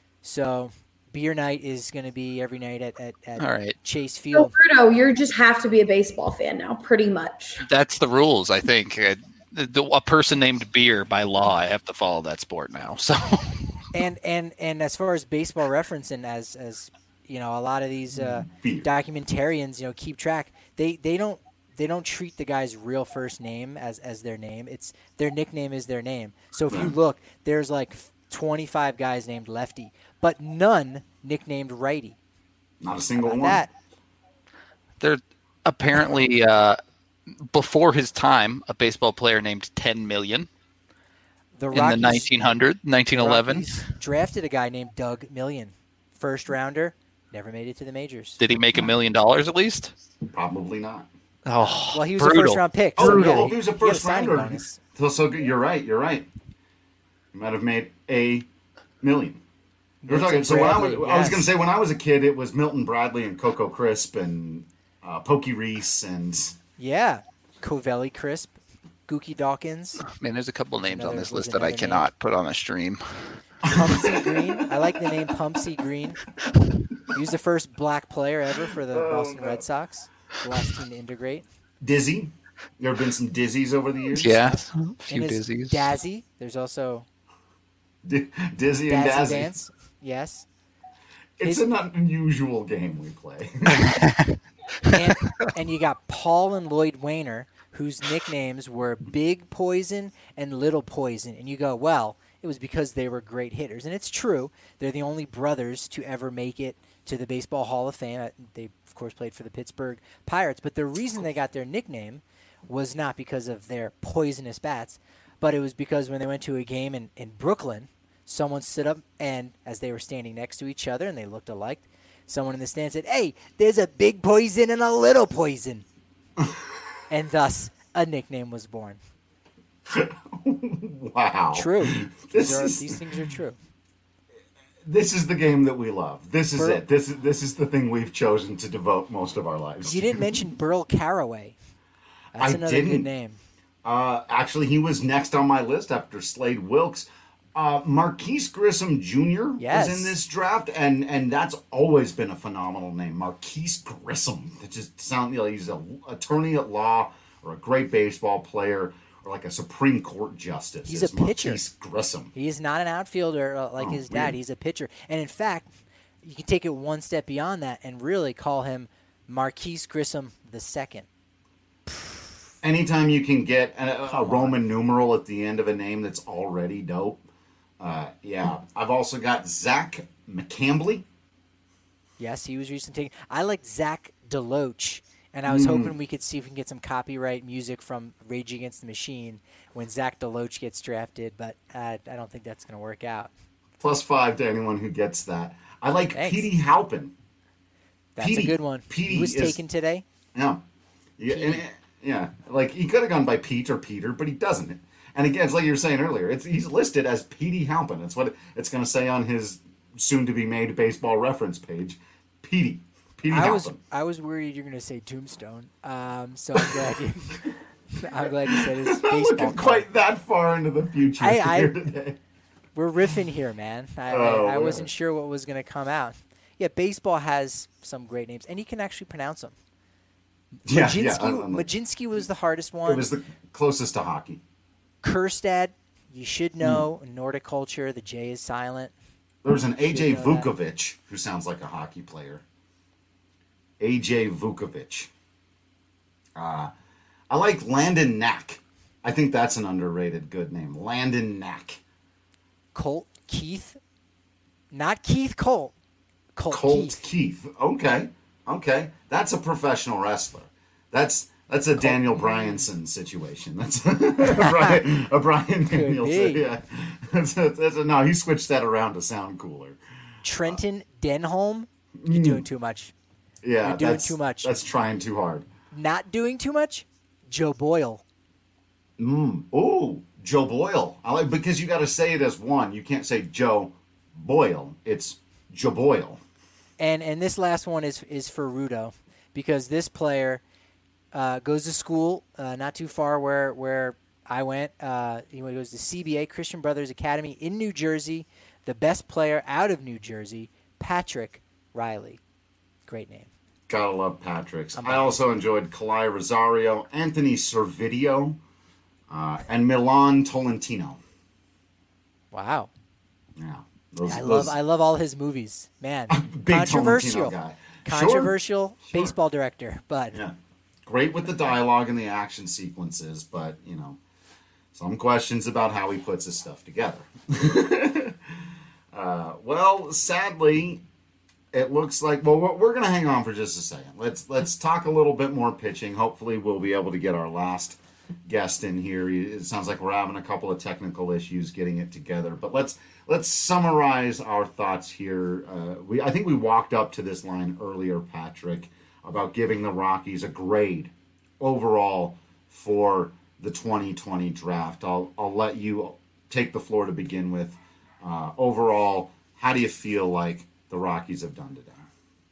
So beer night is going to be every night at, at, at All right. Chase So, Field. Bruno, you just have to be a baseball fan now, pretty much. That's the rules, I think. Uh, the, a person named Beer, by law, I have to follow that sport now. So, and and and as far as baseball reference, and as as you know, a lot of these uh, documentarians, you know, keep track. They they don't. They don't treat the guy's real first name as, as their name. It's their nickname is their name. So if you look, there's like twenty-five guys named Lefty, but none nicknamed Righty. Not a single one. That. There apparently, uh, before his time, a baseball player named ten million The in Rockies, the nineteen hundred, nineteen eleven. Rockies drafted a guy named Doug Million, first rounder, never made it to the majors. Did he make a million dollars at least? Probably not. Oh, well, he was brutal. a first round pick. Oh, So no, yeah, he was a he first had a signing rounder. bonus. So, so good. You're right. You're right. He might have made a million. We're talking. So when I was, Bradley, I was yes. going to say when I was a kid, it was Milton Bradley and Coco Crisp and uh, Pokey Reese and Yeah, Covelli Crisp, Gookie Dawkins, Man, there's a couple names Another- on this was list that I another cannot put on a stream. Pumpsy Green. I like the name Pumpsy Green. He was the first black player ever for the Boston Red Sox. The last team to integrate. Dizzy. There have been some Dizzies over the years. Yeah, a few And his dizzies. Dazzy. There's also D- Dizzy and Dazzy Dazzy. Dance. Yes. It's His- an unusual game we play. And, and you got Paul and Lloyd Wainer, whose nicknames were Big Poison and Little Poison. And you go, well, it was because they were great hitters. And it's true. They're the only brothers to ever make it to the Baseball Hall of Fame. They, of course, played for the Pittsburgh Pirates. But the reason they got their nickname was not because of their poisonous bats, but it was because when they went to a game in, in Brooklyn, someone stood up and, as they were standing next to each other and they looked alike, someone in the stand said, hey, there's a big poison and a little poison. And thus, a nickname was born. Wow. True. This These, are, is- these things are true. This is the game that we love. This is Burl- it. This is this is the thing we've chosen to devote most of our lives. You to. didn't mention Burl Caraway. That's I another didn't. good name. Uh, actually, he was next on my list after Slade Wilkes. Uh, Marquise Grissom Junior Yes. was in this draft, and and that's always been a phenomenal name, Marquise Grissom. It just sounds like he's an attorney at law or a great baseball player or like a Supreme Court justice. He's It's a pitcher. Marquise Grissom. He is not an outfielder uh, like Oh, his dad. weird. He's a pitcher. And in fact, you can take it one step beyond that and really call him Marquise Grissom the second. Anytime you can get a, a Roman numeral at the end of a name that's already dope. Uh, yeah. I've also got Zach McCambly. Yes, he was recently taken. I liked Zach DeLoach, and I was Mm. hoping we could see if we can get some copyright music from Rage Against the Machine when Zach DeLoach gets drafted, but uh, I don't think that's going to work out. Plus five to anyone who gets that. I like Thanks. Petey Halpin. That's Petey, a good one. Petey he was is, taken today. Yeah. Yeah, and, yeah. Like, he could have gone by Pete or Peter, but he doesn't. And again, it's like you were saying earlier, it's, he's listed as Petey Halpin. It's what it, it's going to say on his soon-to-be-made baseball reference page. Petey. Petey I Halpin. was I was worried you're going to say Tombstone. Um, so I'm glad you. I'm glad you said his I'm baseball. looking card. quite that far into the future I, I, here today. We're riffing here, man. I, Oh, I, I man. wasn't sure what was going to come out. Yeah, baseball has some great names, and you can actually pronounce them. Yeah, Majinski, yeah. I'm- I'm- Majinski was the hardest one. It was the closest to hockey. Kerstad, you should know. Hmm. Nordic culture, the J is silent. There was an A J Should know that. Vukovic who sounds like a hockey player. A J Vukovic. Uh, I like Landon Knack. I think that's an underrated good name. Landon Knack. Colt Keith, not Keith Colt. Colt, Colt Keith. Keith. Okay. Okay. That's a professional wrestler. That's that's a Daniel Bryanson situation. That's a Brian, a Brian Danielson. be. Yeah. That's a, that's a, no, he switched that around to sound cooler. Trenton Denholm. You're doing too much. Yeah, You're doing that's, too much. That's trying too hard. Not doing too much. Joe Boyle. Mm. Oh, Joe Boyle. I like because you got to say it as one. You can't say Joe Boyle. It's Joe Boyle. And and this last one is is for Rudo, because this player uh, goes to school uh, not too far where where I went. Uh, he goes to C B A, Christian Brothers Academy in New Jersey. The best player out of New Jersey, Patrick Riley. Great name. Gotta love Patrick's. I'm I also enjoyed Kalai Rosario, Anthony Servideo, uh, and Milan Tolentino. Wow. Yeah, those, I those, love I love all his movies. Man, big controversial. Tolentino guy. Controversial Sure, baseball director, but yeah, great with the dialogue and the action sequences, but you know, some questions about how he puts his stuff together. uh, well, sadly, it looks like well, we're, we're going to hang on for just a second. Let's let's talk a little bit more pitching. Hopefully, we'll be able to get our last guest in here. It sounds like we're having a couple of technical issues getting it together, but let's let's summarize our thoughts here. Uh, we I think we walked up to this line earlier, Patrick, about giving the Rockies a grade overall for the twenty twenty draft. I'll I'll let you take the floor to begin with. Uh, overall, how do you feel like the Rockies have done today?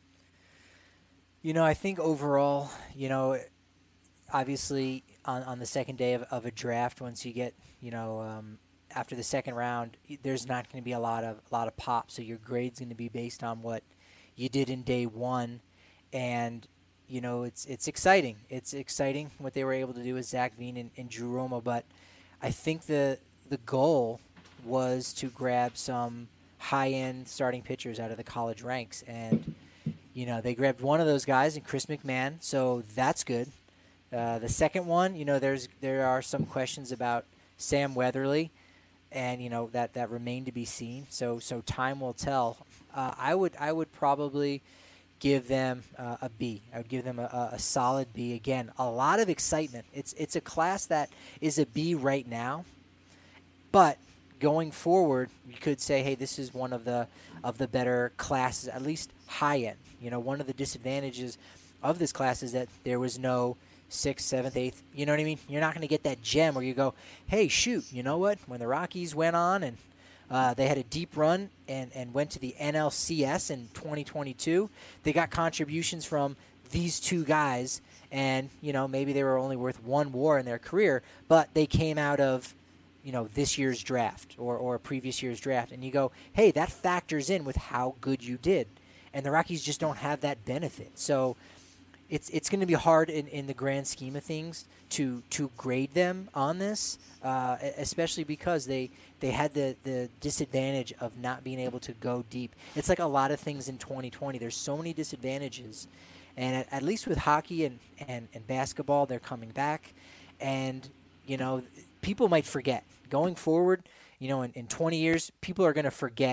You know, I think overall, you know, obviously on, on the second day of, of a draft, once you get, you know, um, after the second round, there's not going to be a lot of a lot of pop. So your grade's going to be based on what you did in day one, and you know, it's it's exciting. It's exciting what they were able to do with Zach Veen and, and Drew Romo, but I think the the goal was to grab some high-end starting pitchers out of the college ranks, and you know, they grabbed one of those guys in Chris McMahon, so that's good. Uh, the second one, you know, there's there are some questions about Sam Weatherly, and you know that that remain to be seen. So so time will tell. Uh, I would I would probably give them uh, a B. I would give them a, a solid B. Again, a lot of excitement. It's it's a class that is a B right now, but going forward, you could say, hey, this is one of the of the better classes, at least high end. You know, one of the disadvantages of this class is that there was no sixth, seventh, eighth. You know what I mean? You're not going to get that gem where you go, hey, shoot, you know what? When the Rockies went on and uh, they had a deep run and, and went to the N L C S in twenty twenty-two, they got contributions from these two guys, and you know, maybe they were only worth one WAR in their career, but they came out of, you know, this year's draft or, or a previous year's draft, and you go, hey, that factors in with how good you did. And the Rockies just don't have that benefit. So it's it's going to be hard in, in the grand scheme of things to to grade them on this, uh, especially because they, they had the, the disadvantage of not being able to go deep. It's like a lot of things in twenty twenty. There's so many disadvantages. And at, at least with hockey and, and, and basketball, they're coming back. And, you know, people might forget. Going forward, you know, in, in twenty years, people are going to forget,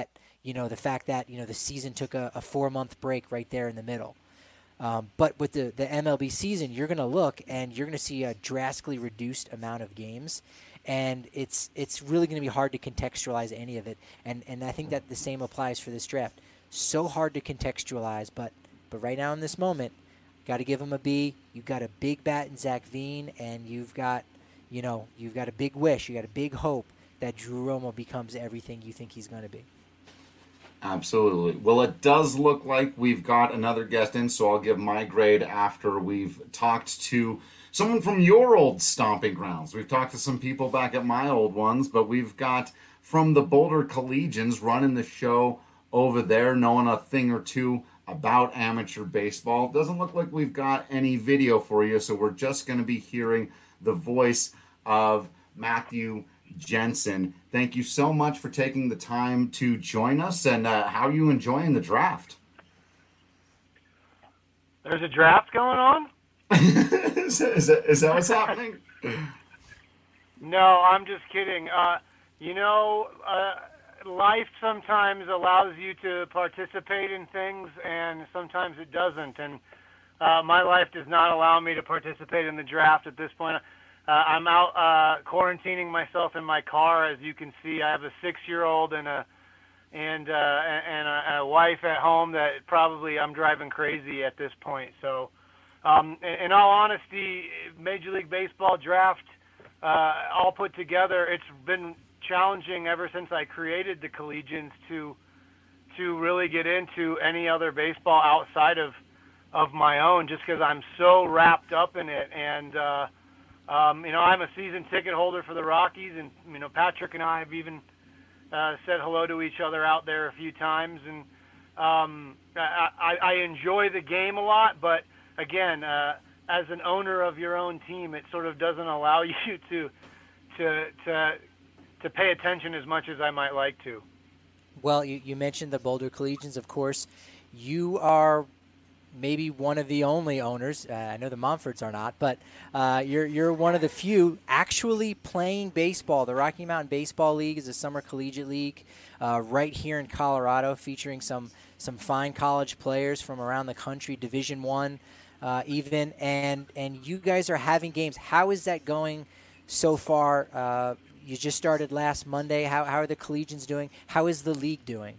you know, the fact that, you know, the season took a, a four-month break right there in the middle. Um, but with the, the M L B season, you're going to look and you're going to see a drastically reduced amount of games. And it's it's really going to be hard to contextualize any of it. And and I think that the same applies for this draft. So hard to contextualize, but but right now in this moment, got to give him a B. You've got a big bat in Zach Veen, and you've got, you know, you've got a big wish, you got a big hope that Drew Romo becomes everything you think he's going to be. Absolutely. Well, it does look like we've got another guest in, so I'll give my grade after we've talked to someone from your old stomping grounds. We've talked to some people back at my old ones, but we've got from the Boulder Collegians running the show over there, knowing a thing or two about amateur baseball. Doesn't look like we've got any video for you, so we're just going to be hearing the voice of Matthew Jensen. Thank you so much for taking the time to join us, and uh, how are you enjoying the draft? There's a draft going on? is, that, is, that, is that what's happening? No, I'm just kidding. Uh, you know, uh, life sometimes allows you to participate in things, and sometimes it doesn't. And uh, my life does not allow me to participate in the draft at this point. Uh, I'm out uh, quarantining myself in my car. As you can see, I have a six-year-old and a and uh, and a, a wife at home that probably I'm driving crazy at this point. So, um, in, in all honesty, Major League Baseball draft, uh, all put together, it's been challenging ever since I created the Collegians to to really get into any other baseball outside of of my own, just because I'm so wrapped up in it. And uh, um, you know, I'm a season ticket holder for the Rockies, and you know, Patrick and I have even uh, said hello to each other out there a few times. And um, I, I, I enjoy the game a lot, but again, uh, as an owner of your own team, it sort of doesn't allow you to to to to pay attention as much as I might like to. Well, you, you mentioned the Boulder Collegians, of course. You are maybe one of the only owners. Uh, I know the Montforts are not, but uh, you're you're one of the few actually playing baseball. The Rocky Mountain Baseball League is a summer collegiate league uh, right here in Colorado, featuring some some fine college players from around the country, Division One, uh, even. And and you guys are having games. How is that going so far? Uh, you just started last Monday. How how are the Collegians doing? How is the league doing?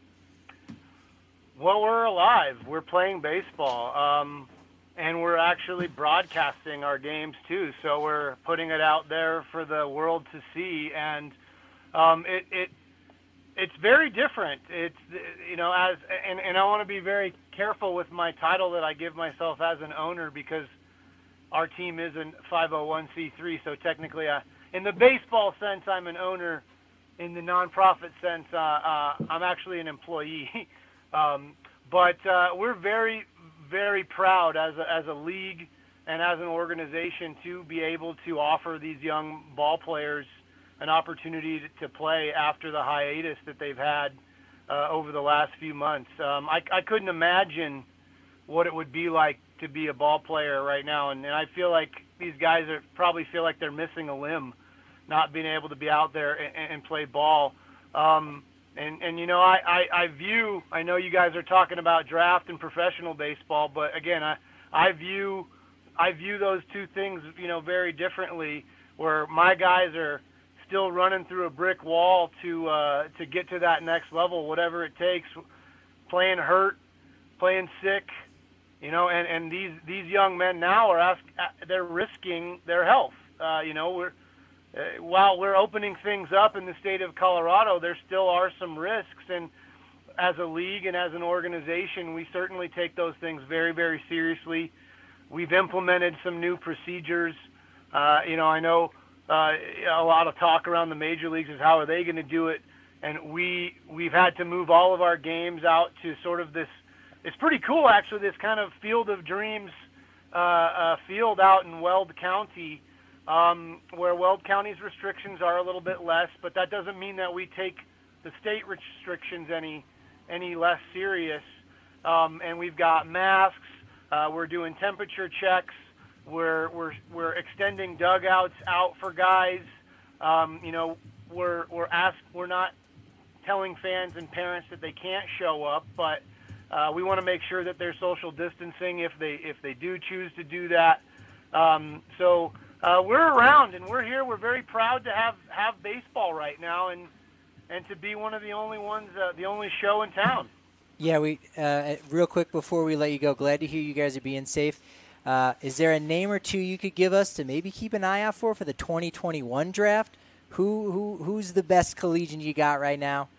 Well, we're alive. We're playing baseball, um, and we're actually broadcasting our games too. So we're putting it out there for the world to see, and um, it, it it's very different. It's you know as and, and I want to be very careful with my title that I give myself as an owner, because our team is a five oh one c three. So technically, I, in the baseball sense, I'm an owner. In the nonprofit sense, uh, uh, I'm actually an employee. Um, but uh, we're very, very proud as a, as a league and as an organization to be able to offer these young ball players an opportunity to, to play after the hiatus that they've had uh, over the last few months. Um, I, I couldn't imagine what it would be like to be a ball player right now, and, and I feel like these guys are probably feel like they're missing a limb, not being able to be out there and, and play ball. Um, And, and you know, I, I, I view, I know you guys are talking about draft and professional baseball, but again, I, I view I view those two things, you know, very differently, where my guys are still running through a brick wall to uh, to get to that next level, whatever it takes, playing hurt, playing sick, you know, and, and these, these young men now are ask, they're risking their health. Uh, you know, we're Uh, while we're opening things up in the state of Colorado, there still are some risks, and as a league and as an organization, we certainly take those things very, very seriously. We've implemented some new procedures. Uh, you know, I know uh, a lot of talk around the major leagues is how are they going to do it, and we we've had to move all of our games out to sort of this. It's pretty cool, actually. This kind of Field of Dreams uh, uh, field out in Weld County. Um, where Weld County's restrictions are a little bit less, but that doesn't mean that we take the state restrictions any any less serious. Um, and we've got masks. Uh, we're doing temperature checks. We're we're we're extending dugouts out for guys. Um, you know, we're we're asked. We're not telling fans and parents that they can't show up, but uh, we want to make sure that they're social distancing if they if they do choose to do that. Um, so uh, we're around and we're here. We're very proud to have, have baseball right now and and to be one of the only ones, uh, the only show in town. Yeah, we uh, real quick before we let you go, glad to hear you guys are being safe. Uh, is there a name or two you could give us to maybe keep an eye out for for the twenty twenty-one draft? Who who who's the best collegian you got right now?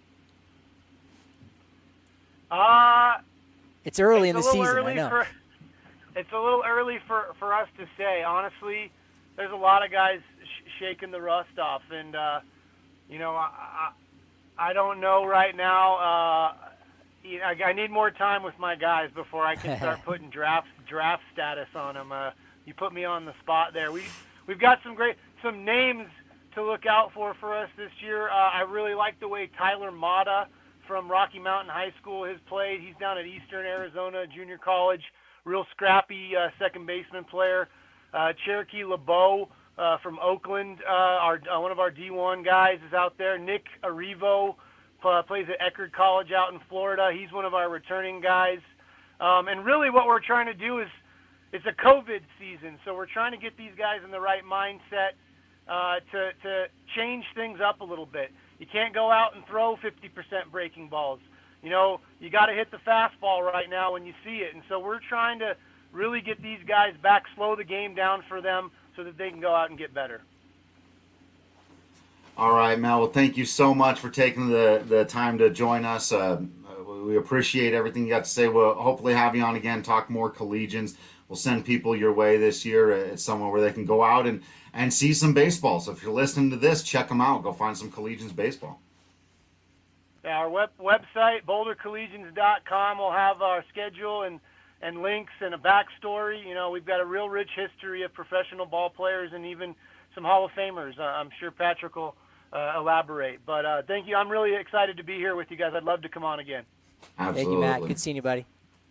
Uh, it's early it's in the season, early I know. For, it's a little early for, for us to say. Honestly, there's a lot of guys sh- shaking the rust off, and uh, you know, I, I I don't know right now. Uh, I, I need more time with my guys before I can start putting draft draft status on them. Uh, you put me on the spot there. We we've got some great some names to look out for for us this year. Uh, I really like the way Tyler Mata from Rocky Mountain High School has played. He's down at Eastern Arizona Junior College. Real scrappy uh, second baseman player. Uh, Cherokee LeBeau uh, from Oakland, uh, our uh, one of our D one guys is out there. Nick Arrivo uh, plays at Eckerd College out in Florida. He's one of our returning guys. Um, and really what we're trying to do is, it's a COVID season, so we're trying to get these guys in the right mindset uh, to, to change things up a little bit. You can't go out and throw fifty percent breaking balls. You know, you got to hit the fastball right now when you see it. And so we're trying to really get these guys back, slow the game down for them so that they can go out and get better. All right, Mel. Well, thank you so much for taking the, the time to join us. Uh, we appreciate everything you got to say. We'll hopefully have you on again, talk more collegians. We'll send people your way this year. It's somewhere where they can go out and, and see some baseball. So if you're listening to this, check them out. Go find some collegians baseball. Yeah, our web, website, boulder collegians dot com, will have our schedule and, and links and a backstory. You know, we've got a real rich history of professional ball players and even some Hall of Famers. Uh, I'm sure Patrick will uh, elaborate. But uh, thank you. I'm really excited to be here with you guys. I'd love to come on again. Absolutely. Thank you, Matt. Good seeing you, buddy.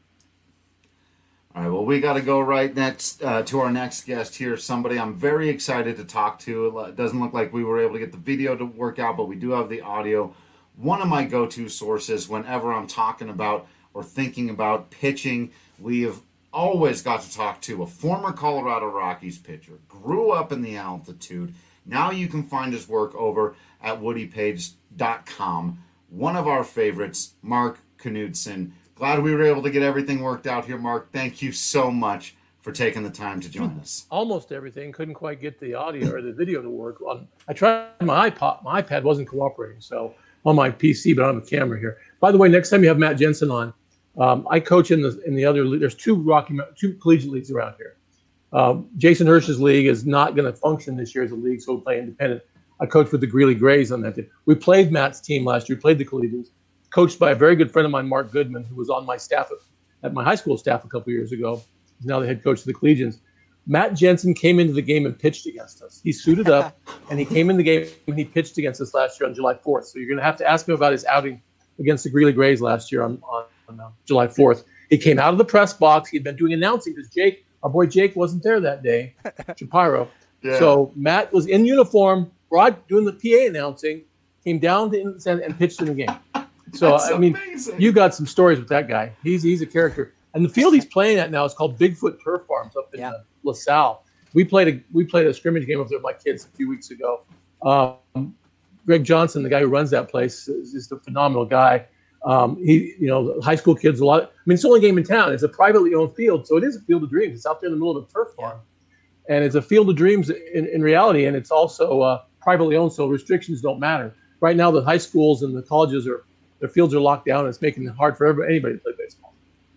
All right, well, we got to go right next uh, to our next guest here, somebody I'm very excited to talk to. It doesn't look like we were able to get the video to work out, but we do have the audio. One of my go-to sources whenever I'm talking about or thinking about pitching, we have always got to talk to a former Colorado Rockies pitcher, grew up in the altitude. Now you can find his work over at woody page dot com. One of our favorites, Mark Knudsen. Glad we were able to get everything worked out here, Mark. Thank you so much for taking the time to join us. Almost everything. Couldn't quite get the audio or the video to work. On, I tried my iPod. My iPad wasn't cooperating, so on my P C, but I don't have a camera here. By the way, next time you have Matt Jensen on, um, I coach in the in the other league. There's two Rocky two collegiate leagues around here. Um, Jason Hirsch's league is not going to function this year as a league, so we'll play independent. I coach with the Greeley Grays on that team. We played Matt's team last year. We played the collegians. Coached by a very good friend of mine, Mark Goodman, who was on my staff at, at my high school staff a couple years ago. He's now the head coach of the Collegians. Matt Jensen came into the game and pitched against us. He suited up, and he came in the game and he pitched against us last year on July fourth. So you're going to have to ask him about his outing against the Greeley Grays last year on, on, on uh, July fourth. He came out of the press box. He'd been doing announcing because Jake, our boy Jake, wasn't there that day, Shapiro. Yeah. So Matt was in uniform, broad, doing the P A announcing, came down to and, and pitched in the game. So, That's I mean, amazing. You got some stories with that guy. He's he's a character. And the field he's playing at now is called Bigfoot Turf Farms up in yeah. uh, LaSalle. We played a we played a scrimmage game up there with my kids a few weeks ago. Um, Greg Johnson, the guy who runs that place, is just a phenomenal guy. Um, he, you know, high school kids, a lot. I mean, it's the only game in town. It's a privately owned field, so it is a field of dreams. It's out there in the middle of a turf farm, and it's a field of dreams in, in reality. And it's also uh, privately owned, so restrictions don't matter. Right now, the high schools and the colleges are. Their fields are locked down. And it's making it hard for everybody, anybody to play baseball.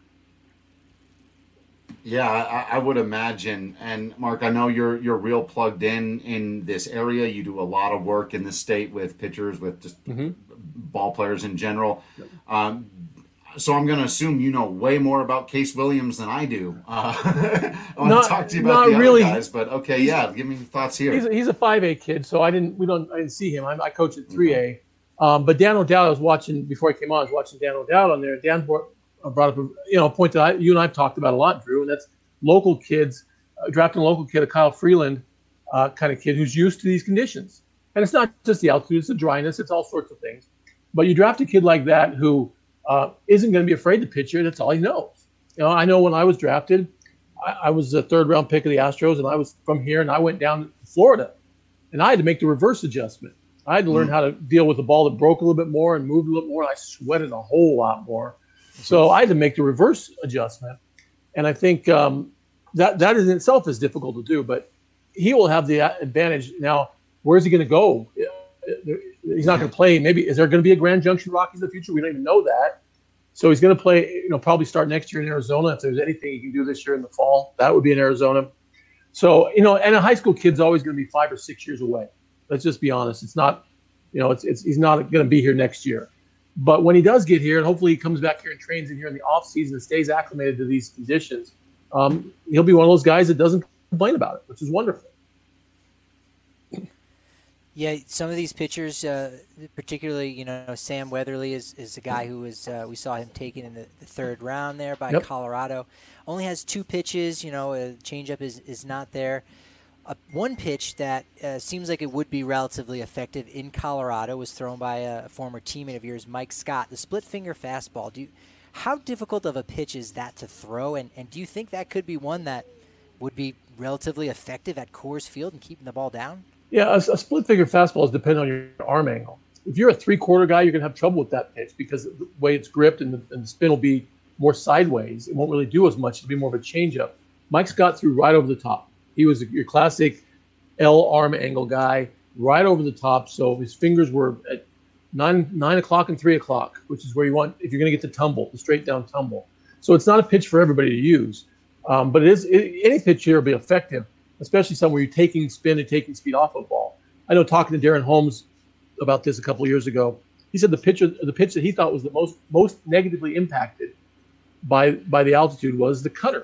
Yeah, I, I would imagine. And Mark, I know you're you're real plugged in in this area. You do a lot of work in the state with pitchers, with just mm-hmm. ball players in general. Yep. Um, so I'm going to assume you know way more about Case Williams than I do. Uh, I want not, to talk to you about the really, other guys, but okay, yeah, give me your thoughts here. He's a, he's a five A kid, so I didn't we don't I didn't see him. I, I coach at three A. Okay. Um, but Dan O'Dowd, I was watching before I came on. I was watching Dan O'Dowd on there. Dan brought, uh, brought up a you know a point that I, you and I have talked about a lot, Drew, and that's local kids uh, drafting a local kid, a Kyle Freeland uh, kind of kid who's used to these conditions. And it's not just the altitude; it's the dryness, it's all sorts of things. But you draft a kid like that who uh, isn't going to be afraid to pitch it. That's all he knows. You know, I know when I was drafted, I, I was a third round pick of the Astros, and I was from here, and I went down to Florida, and I had to make the reverse adjustment. I had to learn mm. how to deal with a ball that broke a little bit more and moved a little more. I sweated a whole lot more. So I had to make the reverse adjustment. And I think um, that that in itself is difficult to do, but he will have the advantage. Now, where's he going to go? He's not going to play. Maybe is there going to be a Grand Junction Rockies in the future? We don't even know that. So he's going to play, you know, probably start next year in Arizona. If there's anything he can do this year in the fall, that would be in Arizona. So, you know, and a high school kid's always going to be five or six years away. Let's just be honest. It's not, you know, it's, it's he's not going to be here next year. But when he does get here, and hopefully he comes back here and trains in here in the off season and stays acclimated to these conditions, um, he'll be one of those guys that doesn't complain about it, which is wonderful. Yeah, some of these pitchers, uh, particularly, you know, Sam Weatherly is, is a guy who was, uh, we saw him taken in the, the third round there by yep. Colorado. Only has two pitches, you know, a changeup is, is not there. Uh, one pitch that uh, seems like it would be relatively effective in Colorado was thrown by a former teammate of yours, Mike Scott, the split finger fastball. Do you, how difficult of a pitch is that to throw? And, and do you think that could be one that would be relatively effective at Coors Field and keeping the ball down? Yeah, a, a split finger fastball is dependent on your arm angle. If you're a three-quarter guy, you're going to have trouble with that pitch because of the way it's gripped and the, and the spin will be more sideways. It won't really do as much. It'll be more of a changeup. Mike Scott threw right over the top. He was a, your classic L arm angle guy, right over the top. So his fingers were at nine nine o'clock and three o'clock, which is where you want if you're going to get the tumble, the straight down tumble. So it's not a pitch for everybody to use, um, but it is it, any pitch here will be effective, especially some where you're taking spin and taking speed off a ball. I know talking to Darren Holmes about this a couple of years ago, he said the pitch the pitch that he thought was the most most negatively impacted by by the altitude was the cutter,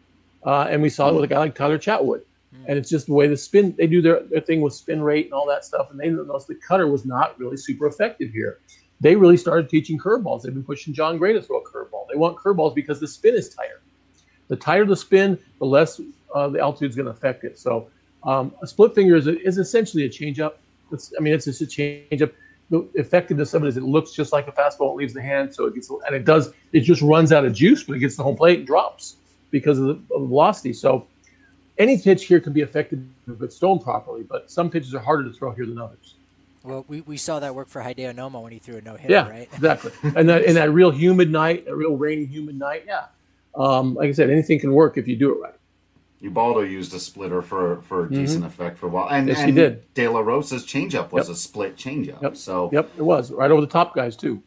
uh, and we saw it with a guy like Tyler Chatwood. And it's just the way the spin, they do their, their thing with spin rate and all that stuff. And they noticed the cutter was not really super effective here. They really started teaching curveballs. They've been pushing John Gray to throw a curveball. They want curveballs because the spin is tighter. The tighter the spin, the less uh, the altitude is going to affect it. So um, a split finger is, a, is essentially a changeup. It's, I mean, it's just a changeup. The effectiveness of it is it looks just like a fastball. It leaves the hand. So it gets, and it does, it just runs out of juice when it gets to the home plate and drops because of the, of the velocity. So any pitch here can be effective if it's thrown properly, but some pitches are harder to throw here than others. Well, we, we saw that work for Hideo Nomo when he threw a no-hitter, yeah, right? Exactly. And that in that real humid night, a real rainy, humid night, yeah. Um, like I said, anything can work if you do it right. Ubaldo used a splitter for, for a mm-hmm. decent effect for a while. And, yes, and he did. De La Rosa's changeup was yep. a split changeup. Yep. So Yep, it was. Right over the top guys, too.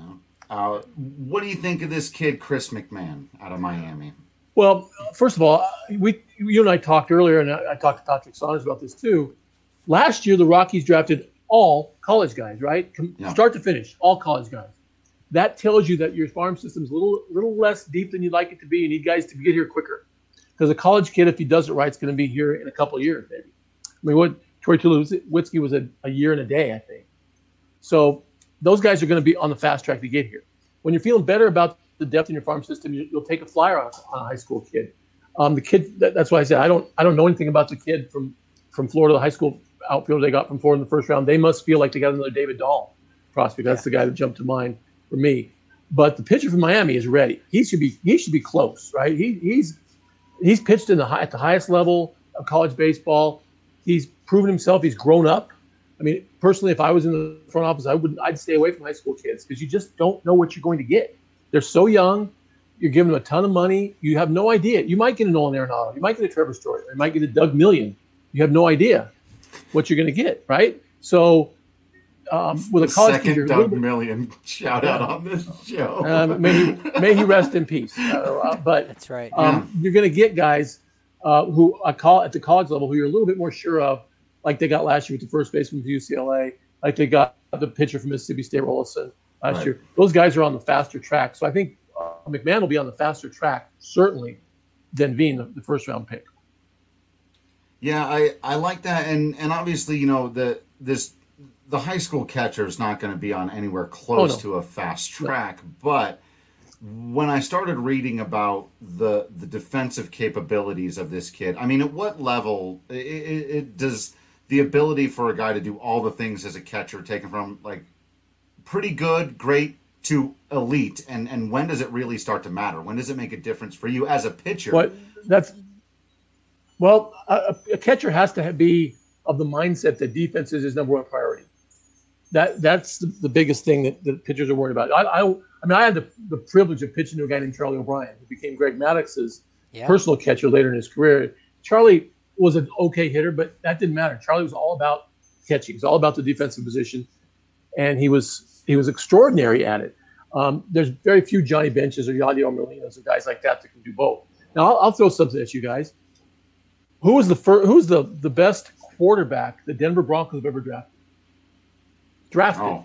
Uh, what do you think of this kid, Chris McMahon, out of Miami? Well, first of all, we you and I talked earlier, and I, I talked to Patrick Saunders about this too. Last year, the Rockies drafted all college guys, right? From yeah. start to finish, all college guys. That tells you that your farm system's a little, little less deep than you'd like it to be. You need guys to get here quicker. Because a college kid, if he does it right, is going to be here in a couple of years, maybe. I mean, what Troy Tulowitzki was a, a year and a day, I think. So those guys are going to be on the fast track to get here. When you're feeling better about the depth in your farm system, you, you'll take a flyer on, on a high school kid. Um, the kid, that, that's why I said I don't, I don't know anything about the kid from, from Florida, the high school outfielder they got from Florida in the first round. They must feel like they got another David Dahl prospect. That's yeah. the guy that jumped to mind for me. But the pitcher from Miami is ready. He should be, he should be close, right? He, he's, he's pitched in the high, at the highest level of college baseball. He's proven himself. He's grown up. I mean, personally, if I was in the front office, I wouldn't. I'd stay away from high school kids because you just don't know what you're going to get. They're so young. You're giving them a ton of money. You have no idea. You might get a Nolan Arenado. You might get a Trevor Story. You might get a Doug Million. You have no idea what you're going to get, right? So um, with a college second kid, Doug bit, Million shout out on this show. Um, may he may he rest in peace. Uh, but that's right. Um, yeah. You're going to get guys uh, who I call at the college level who you're a little bit more sure of, like they got last year with the first baseman from U C L A, like they got the pitcher from Mississippi State, Rollison, last right. year. Those guys are on the faster track. So I think uh, McMahon will be on the faster track, certainly, than Veen, the, the first round pick. Yeah, I, I like that. And and obviously, you know, the this the high school catcher is not going to be on anywhere close oh, no. to a fast track. No. But when I started reading about the the defensive capabilities of this kid, I mean, at what level it, it, it does the ability for a guy to do all the things as a catcher taken from, like, pretty good, great to elite, and and when does it really start to matter? When does it make a difference for you as a pitcher? What that's well, a, a catcher has to be of the mindset that defense is his number one priority. That that's the, the biggest thing that, that pitchers are worried about. I, I I mean I had the, the privilege of pitching to a guy named Charlie O'Brien, who became Greg Maddox's yeah. personal catcher later in his career. Charlie was an okay hitter, but that didn't matter. Charlie was all about catching. He's all about the defensive position, and he was he was extraordinary at it. Um, there's very few Johnny Benches or Yadier Molinas or guys like that that can do both. Now I'll, I'll throw something at you guys. Who was the first? Who's the the best quarterback the Denver Broncos have ever drafted? Drafted. Oh.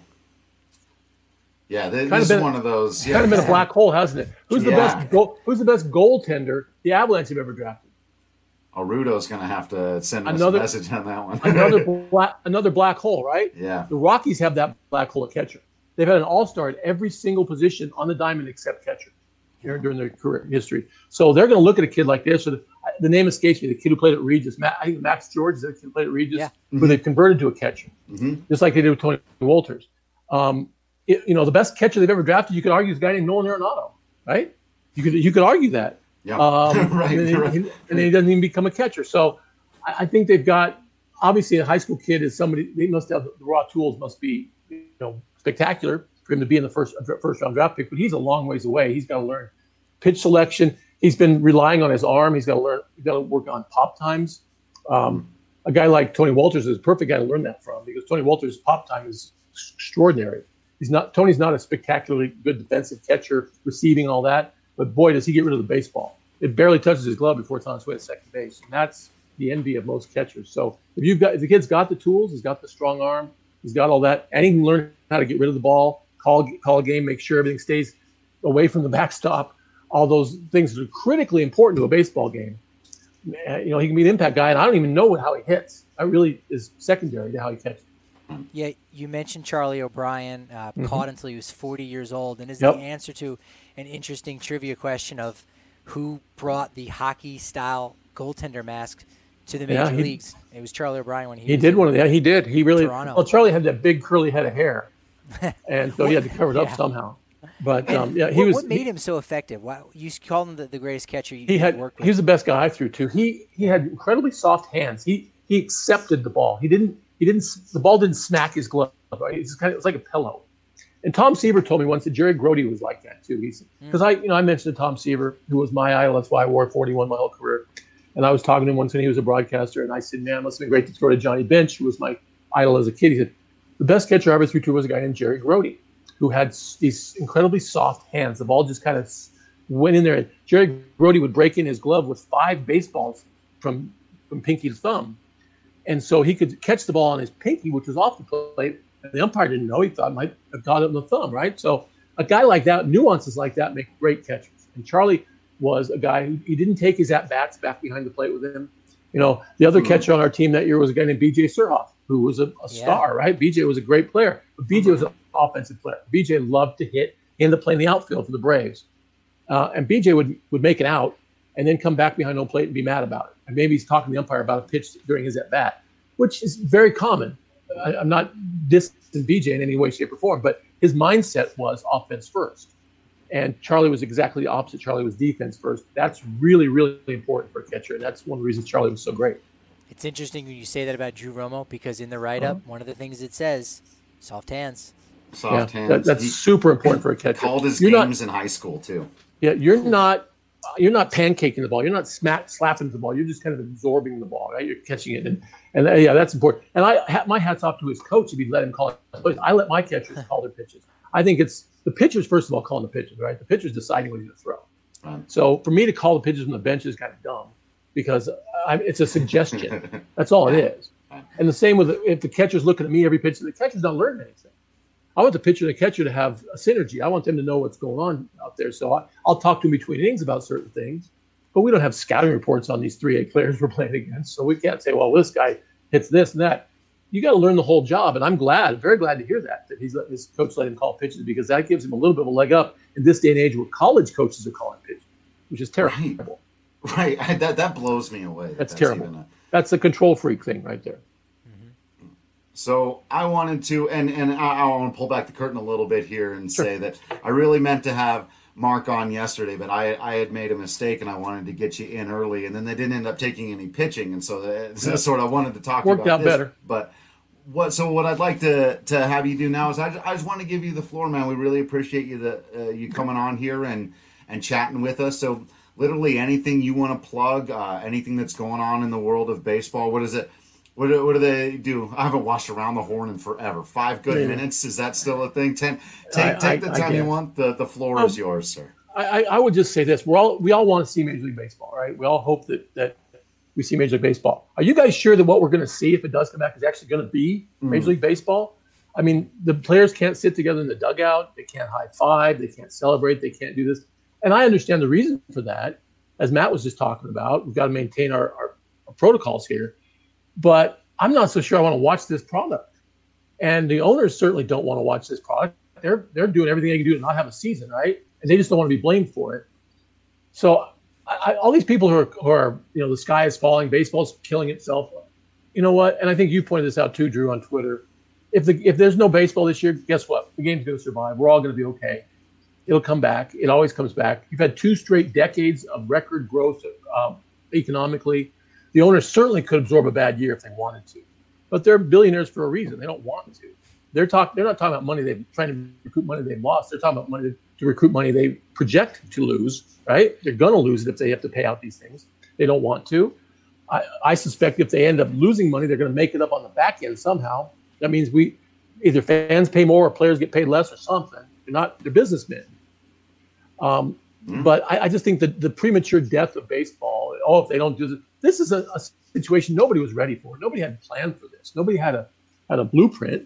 Yeah, this kind of been, is one of those. Yeah. Kind of been a black hole, hasn't it? Who's the yeah. best? Goal, who's the best goaltender the Avalanche have ever drafted? Oh, Rudo's going to have to send us another, a message on that one. another black, another black hole, right? Yeah. The Rockies have that black hole at catcher. They've had an all-star at every single position on the diamond except catcher during their career history. So they're going to look at a kid like this. Or the, the name escapes me. The kid who played at Regis, Matt, I think Max George is the kid who played at Regis, yeah. who mm-hmm. they've converted to a catcher, mm-hmm. just like they did with Tony Walters. Um, it, you know, the best catcher they've ever drafted, you could argue, is a guy named Nolan Arenado, right? You could you could argue that. Yeah. Um, right, and, then, right. and then he doesn't even become a catcher. So I, I think they've got, obviously a high school kid is somebody, they must have, the raw tools must be, you know, spectacular for him to be in the first first round draft pick, but he's a long ways away. He's got to learn pitch selection. He's been relying on his arm. He's got to learn, he's got to work on pop times. Um, a guy like Tony Walters is a perfect guy to learn that from, because Tony Walters' pop time is extraordinary. He's not, Tony's not a spectacularly good defensive catcher, receiving all that, but boy, does he get rid of the baseball. It barely touches his glove before it's on its way to second base. And that's the envy of most catchers. So if you've got, if the kid's got the tools, he's got the strong arm, he's got all that, and he can learn how to get rid of the ball, call call a game, make sure everything stays away from the backstop. All those things that are critically important to a baseball game. You know, he can be an impact guy, and I don't even know how he hits. That really is secondary to how he catches. Yeah, you mentioned Charlie O'Brien, uh, mm-hmm. caught until he was forty years old, and is yep. the answer to an interesting trivia question of who brought the hockey-style goaltender mask to the major yeah, he, leagues. It was Charlie O'Brien when he. He was did one of that. He did. He really. Toronto. Well, Charlie had that big curly head of hair, and so he had to cover it yeah. up somehow. But um, yeah, he what, was. What made he, him so effective? Why, you called him the, the greatest catcher you he had. worked with. He was the best guy I threw to. He he had incredibly soft hands. He he accepted the ball. He didn't. He didn't. The ball didn't smack his glove. Right? It's kind of. It was like a pillow. And Tom Seaver told me once that Jerry Grody was like that too. He's because mm. I you know I mentioned to Tom Seaver, who was my idol. That's why I wore forty-one my whole career. And I was talking to him once when he was a broadcaster, and I said, "Man, must have been great to throw to Johnny Bench, who was my idol as a kid." He said, "The best catcher I ever threw to was a guy named Jerry Grody, who had these incredibly soft hands. The ball just kind of went in there. And Jerry Grody would break in his glove with five baseballs from, from pinky to thumb. And so he could catch the ball on his pinky, which was off the plate. And the umpire didn't know. He thought might have got it on the thumb, right? So a guy like that, nuances like that make great catchers. And Charlie was a guy who he didn't take his at-bats back behind the plate with him. You know, the other mm-hmm. catcher on our team that year was a guy named B J Surhoff, who was a, a yeah. star, right? B J was a great player, but B J was an offensive player. B J loved to hit and to play in the outfield for the Braves. Uh, and B J would, would make it out and then come back behind home plate and be mad about it. And maybe he's talking to the umpire about a pitch during his at-bat, which is very common. I, I'm not dissing B J in any way, shape, or form, but his mindset was offense first. And Charlie was exactly the opposite. Charlie was defense first. That's really, really important for a catcher. And that's one of the reasons Charlie was so great. It's interesting when you say that about Drew Romo, because in the write-up, uh-huh. one of the things it says, soft hands. Soft yeah, hands. That, that's he, super important for a catcher. Called his you're games not, in high school, too. Yeah, you're not you're not pancaking the ball. You're not smack, slapping the ball. You're just kind of absorbing the ball, right? You're catching it. And, and uh, yeah, that's important. And I my hat's off to his coach if he'd let him call it. I let my catchers call their pitches. I think it's the pitchers, first of all, calling the pitches, right? The pitcher's deciding what he's going to throw. Right. So for me to call the pitches from the bench is kind of dumb because I, it's a suggestion. That's all it is. And the same with if the catcher's looking at me every pitch, the catcher's not learning anything. I want the pitcher and the catcher to have a synergy. I want them to know what's going on out there. So I, I'll talk to them between innings about certain things, but we don't have scouting reports on these three A players we're playing against. So we can't say, well, this guy hits this and that. You got to learn the whole job. And I'm glad, very glad to hear that, that he's let, his coach let him call pitches, because that gives him a little bit of a leg up in this day and age where college coaches are calling pitches, which is terrible. Right. right. That, that blows me away. That's, that's terrible. A... That's a control freak thing right there. So I wanted to, and, and I, I want to pull back the curtain a little bit here and Sure. say that I really meant to have Mark on yesterday, but I I had made a mistake and I wanted to get you in early, and then they didn't end up taking any pitching, and so that's Yeah. sort of wanted to talk Worked about out this. better. But what? So what I'd like to to have you do now is I just, I just want to give you the floor, man. We really appreciate you the uh, you coming on here and and chatting with us. So literally anything you want to plug, uh, anything that's going on in the world of baseball. What is it? What do, what do they do? I haven't watched Around the Horn in forever. Five good Yeah. minutes. Is that still a thing? Ten. Take I- take the I- I time you guess. want. The the floor Um, is yours, sir. I, I would just say this: we're all we all want to see Major League Baseball, right? We all hope that that we see Major League Baseball. Are you guys sure that what we're going to see, if it does come back, is actually going to be Mm. Major League Baseball? I mean, the players can't sit together in the dugout. They can't high five. They can't celebrate. They can't do this. And I understand the reason for that, as Matt was just talking about. We've got to maintain our, our, our protocols here. But I'm not so sure I want to watch this product. And the owners certainly don't want to watch this product. They're they're doing everything they can do to not have a season, right? And they just don't want to be blamed for it. So I, I, all these people who are, who are, you know, the sky is falling, baseball's killing itself. You know what? And I think you pointed this out too, Drew, on Twitter. If the if there's no baseball this year, guess what? The game's going to survive. We're all going to be okay. It'll come back. It always comes back. You've had two straight decades of record growth um, economically. The owners certainly could absorb a bad year if they wanted to, but they're billionaires for a reason. They don't want to. They're talk. They're not talking about money they're trying to recruit money they've lost. They're talking about money to recruit money they project to lose. Right? They're going to lose it if they have to pay out these things. They don't want to. I, I suspect if they end up losing money, they're going to make it up on the back end somehow. That means we either fans pay more or players get paid less or something. They're not. They're businessmen. Um, mm-hmm. But I, I just think that the premature death of baseball. Oh, if they don't do this, this is a, a situation nobody was ready for. Nobody had planned for this. Nobody had a had a blueprint.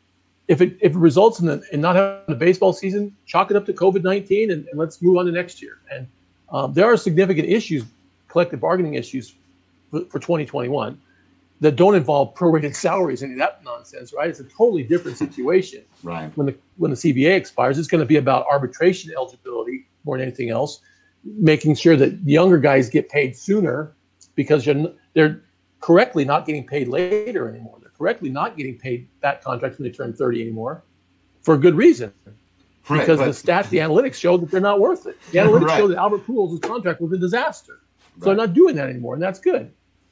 If it if it results in, the, in not having a baseball season, chalk it up to COVID nineteen and, and let's move on to next year. And um, there are significant issues, collective bargaining issues for, for twenty twenty-one that don't involve prorated salaries and that nonsense, right? It's a totally different situation. Right. When the when the C B A expires, it's going to be about arbitration eligibility more than anything else, making sure that younger guys get paid sooner because you're, they're correctly not getting paid later anymore. They're correctly not getting paid that contracts when they turn thirty anymore for a good reason. Right, because but, the stats, the analytics show that they're not worth it. The analytics right. show that Albert Pujols' contract was a disaster. So right. they're not doing that anymore, and that's good.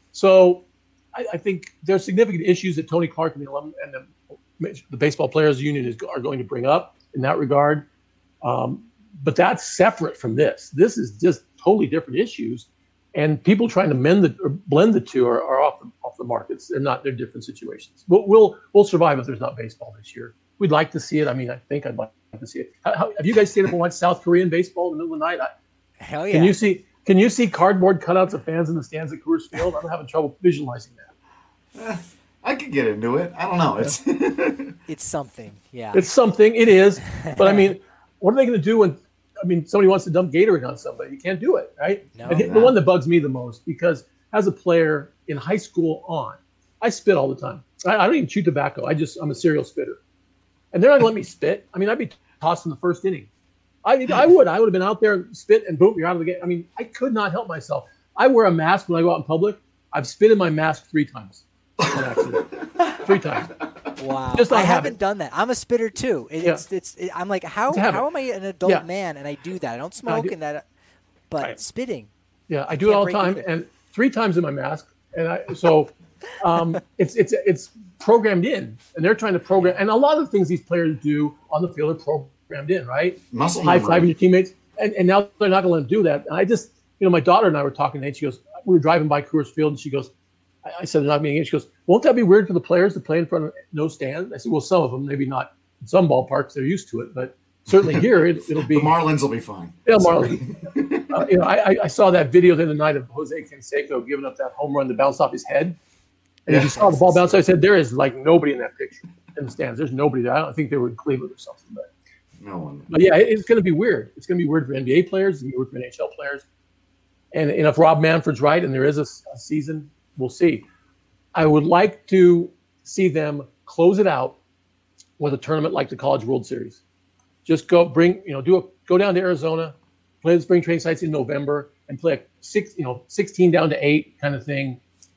So I, I think there's significant issues that Tony Clark and the alum and the, the Baseball Players Union is, are going to bring up in that regard. Um, but that's separate from this. This is just totally different issues, and people trying to mend the or blend the two are, are off the off the markets. They're not. They're different situations. But we'll we'll survive if there's not baseball this year. We'd like to see it. I mean, I think I'd like to see it. How, how, have you guys stayed up and watched South Korean baseball in the middle of the night? I, Hell yeah! Can you see? Can you see cardboard cutouts of fans in the stands at Coors Field? I'm having trouble visualizing that. Eh, I could get into it. I don't know. It's it's something. Yeah. It's something. It is. But I mean, what are they going to do when? I mean, somebody wants to dump Gatorade on somebody. You can't do it, right? No, and no. The one that bugs me the most, because as a player in high school on, I spit all the time. I, I don't even chew tobacco. I just, I'm a serial spitter. And they're not going to let me spit. I mean, I'd be tossed in the first inning. I, I would. I would have been out there and spit and boom, you're out of the game. I mean, I could not help myself. I wear a mask when I go out in public. I've spit in my mask three times. On accident. Three times. Wow. Just I not haven't habit. done that. I'm a spitter too. It, Yeah. It's it's. It, I'm like, how It's a habit. how am I an adult Yeah. man and I do that? I don't No, I smoke do- and that, but Right. spitting. Yeah, I I do it can't all the break time, either. and three times in my mask, and I so um, it's it's it's programmed in, and they're trying to program, and a lot of the things these players do on the field are programmed in, right? Muscle High memory. fiving your teammates, and, and now they're not going to let them do that. And I just, you know, my daughter and I were talking, and she goes, we were driving by Coors Field, and she goes, I, I said they're not being in. She goes, won't that be weird for the players to play in front of no stand? I said, well, some of them, maybe not in some ballparks, they're used to it, but certainly here it, it'll be. The Marlins will be fine. Yeah, Marlon. uh, you know, I, I saw that video the other night of Jose Canseco giving up that home run that bounced off his head. And if you saw the ball bounce, I said, there is like nobody in that picture in the stands. There's nobody there. I don't think they were in Cleveland or something. But, No one. but yeah, it, it's going to be weird. It's going to be weird for N B A players. It's going to be weird for N H L players. And, and if Rob Manfred's right and there is a, a season, we'll see. I would like to see them close it out with a tournament like the College World Series. Just go bring, you know, do a go down to Arizona, play the spring training sites in November, and play a six, you know, sixteen down to eight kind of thing,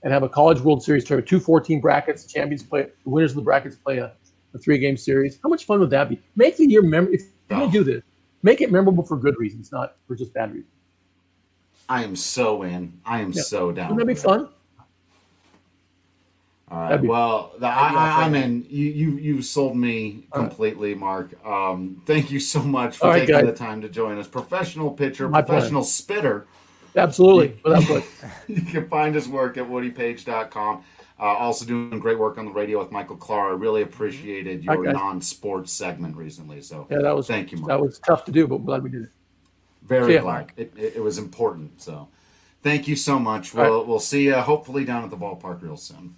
and have a College World Series tournament, two fourteen brackets, champions play, the winners of the brackets play a, a three-game series. How much fun would that be? Make the year memorable. If you're going to do this, make it memorable for good reasons, not for just bad reasons. I am so in. I am Yeah. so down. Wouldn't that be fun? All right. Be, well, the, I, I'm in. You you you've sold me completely, Mark. Um, thank you so much for All right, taking guys. the time to join us. Professional pitcher, My professional pleasure. spitter. Absolutely. Without question. You can find his work at woody page dot com. Uh, also doing great work on the radio with Michael Clara. I really appreciated your Okay. non-sports segment recently. So Yeah, that was thank you, Mark. that was tough to do, but glad we did it. Very See ya, glad. Mark. It, it, it was important. So thank you so much. We'll right. we'll see you hopefully down at the ballpark real soon.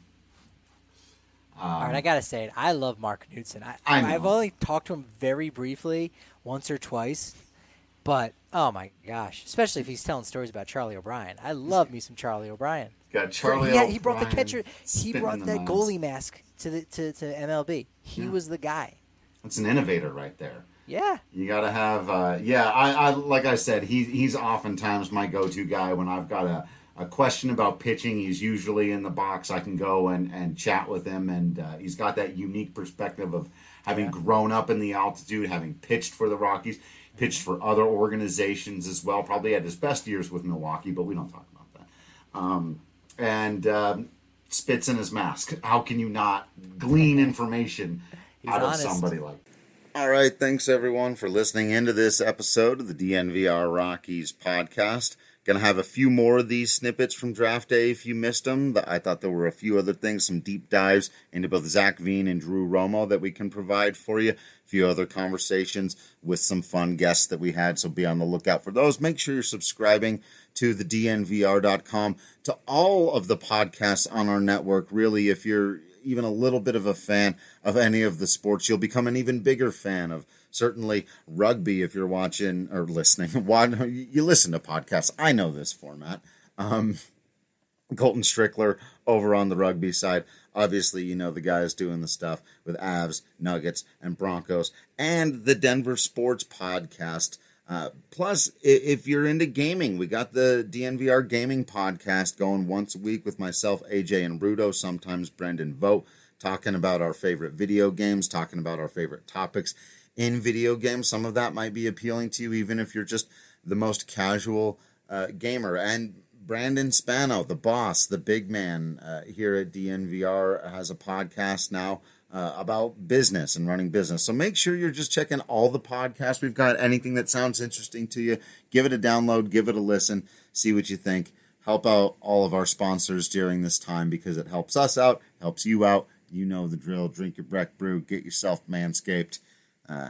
Um, All right, I gotta say it. I love Mark Knudsen. I, I know. I've only talked to him very briefly, once or twice, but oh my gosh, especially if he's telling stories about Charlie O'Brien. I love me some Charlie O'Brien. Got Charlie yeah, he brought the O'Brien catcher. He spitting brought the that nines. goalie mask to the to, to M L B. He Yeah. was the guy. That's an innovator right there. Yeah. You got to have, uh, yeah, I, I like I said, he, he's oftentimes my go-to guy when I've got a, a question about pitching. He's usually in the box. I can go and, and chat with him, and uh, he's got that unique perspective of having Yeah. grown up in the altitude, having pitched for the Rockies, pitched for other organizations as well. Probably had his best years with Milwaukee, but we don't talk about that. Um, and um, spits in his mask. How can you not glean information He's out honest. of somebody like that? All right, thanks everyone for listening into this episode of the D N V R Rockies podcast. Going to have a few more of these snippets from draft day if you missed them. I thought there were a few other things, some deep dives into both Zach Veen and Drew Romo that we can provide for you. A few other conversations with some fun guests that we had, so be on the lookout for those. Make sure you're subscribing to the D N V R dot com, to all of the podcasts on our network. Really, if you're even a little bit of a fan of any of the sports, you'll become an even bigger fan of certainly rugby if you're watching or listening. You listen to podcasts. I know this format. Um, Colton Strickler over on the rugby side. Obviously, you know the guys doing the stuff with Avs, Nuggets, and Broncos, and the Denver Sports Podcast. Uh, plus, if you're into gaming, we got the D N V R Gaming Podcast going once a week with myself, A J, and Rudo, sometimes Brendan Vogt, talking about our favorite video games, talking about our favorite topics in video games. Some of that might be appealing to you, even if you're just the most casual uh, gamer. And Brandon Spano, the boss, the big man uh, here at D N V R, has a podcast now uh, about business and running business. So make sure you're just checking all the podcasts we've got. Anything that sounds interesting to you, give it a download, give it a listen, see what you think. Help out all of our sponsors during this time because it helps us out, helps you out. You know the drill. Drink your Breck Brew. Get yourself Manscaped. Uh,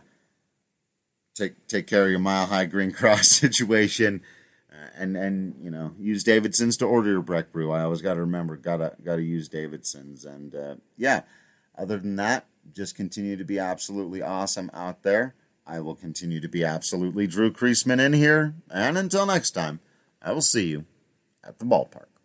take take care of your Mile High Green Cross situation. And, and you know, use Davidson's to order your Breck Brew. I always got to remember, gotta gotta use Davidson's. And uh, yeah, other than that, just continue to be absolutely awesome out there. I will continue to be absolutely Drew Creasman in here. And until next time, I will see you at the ballpark.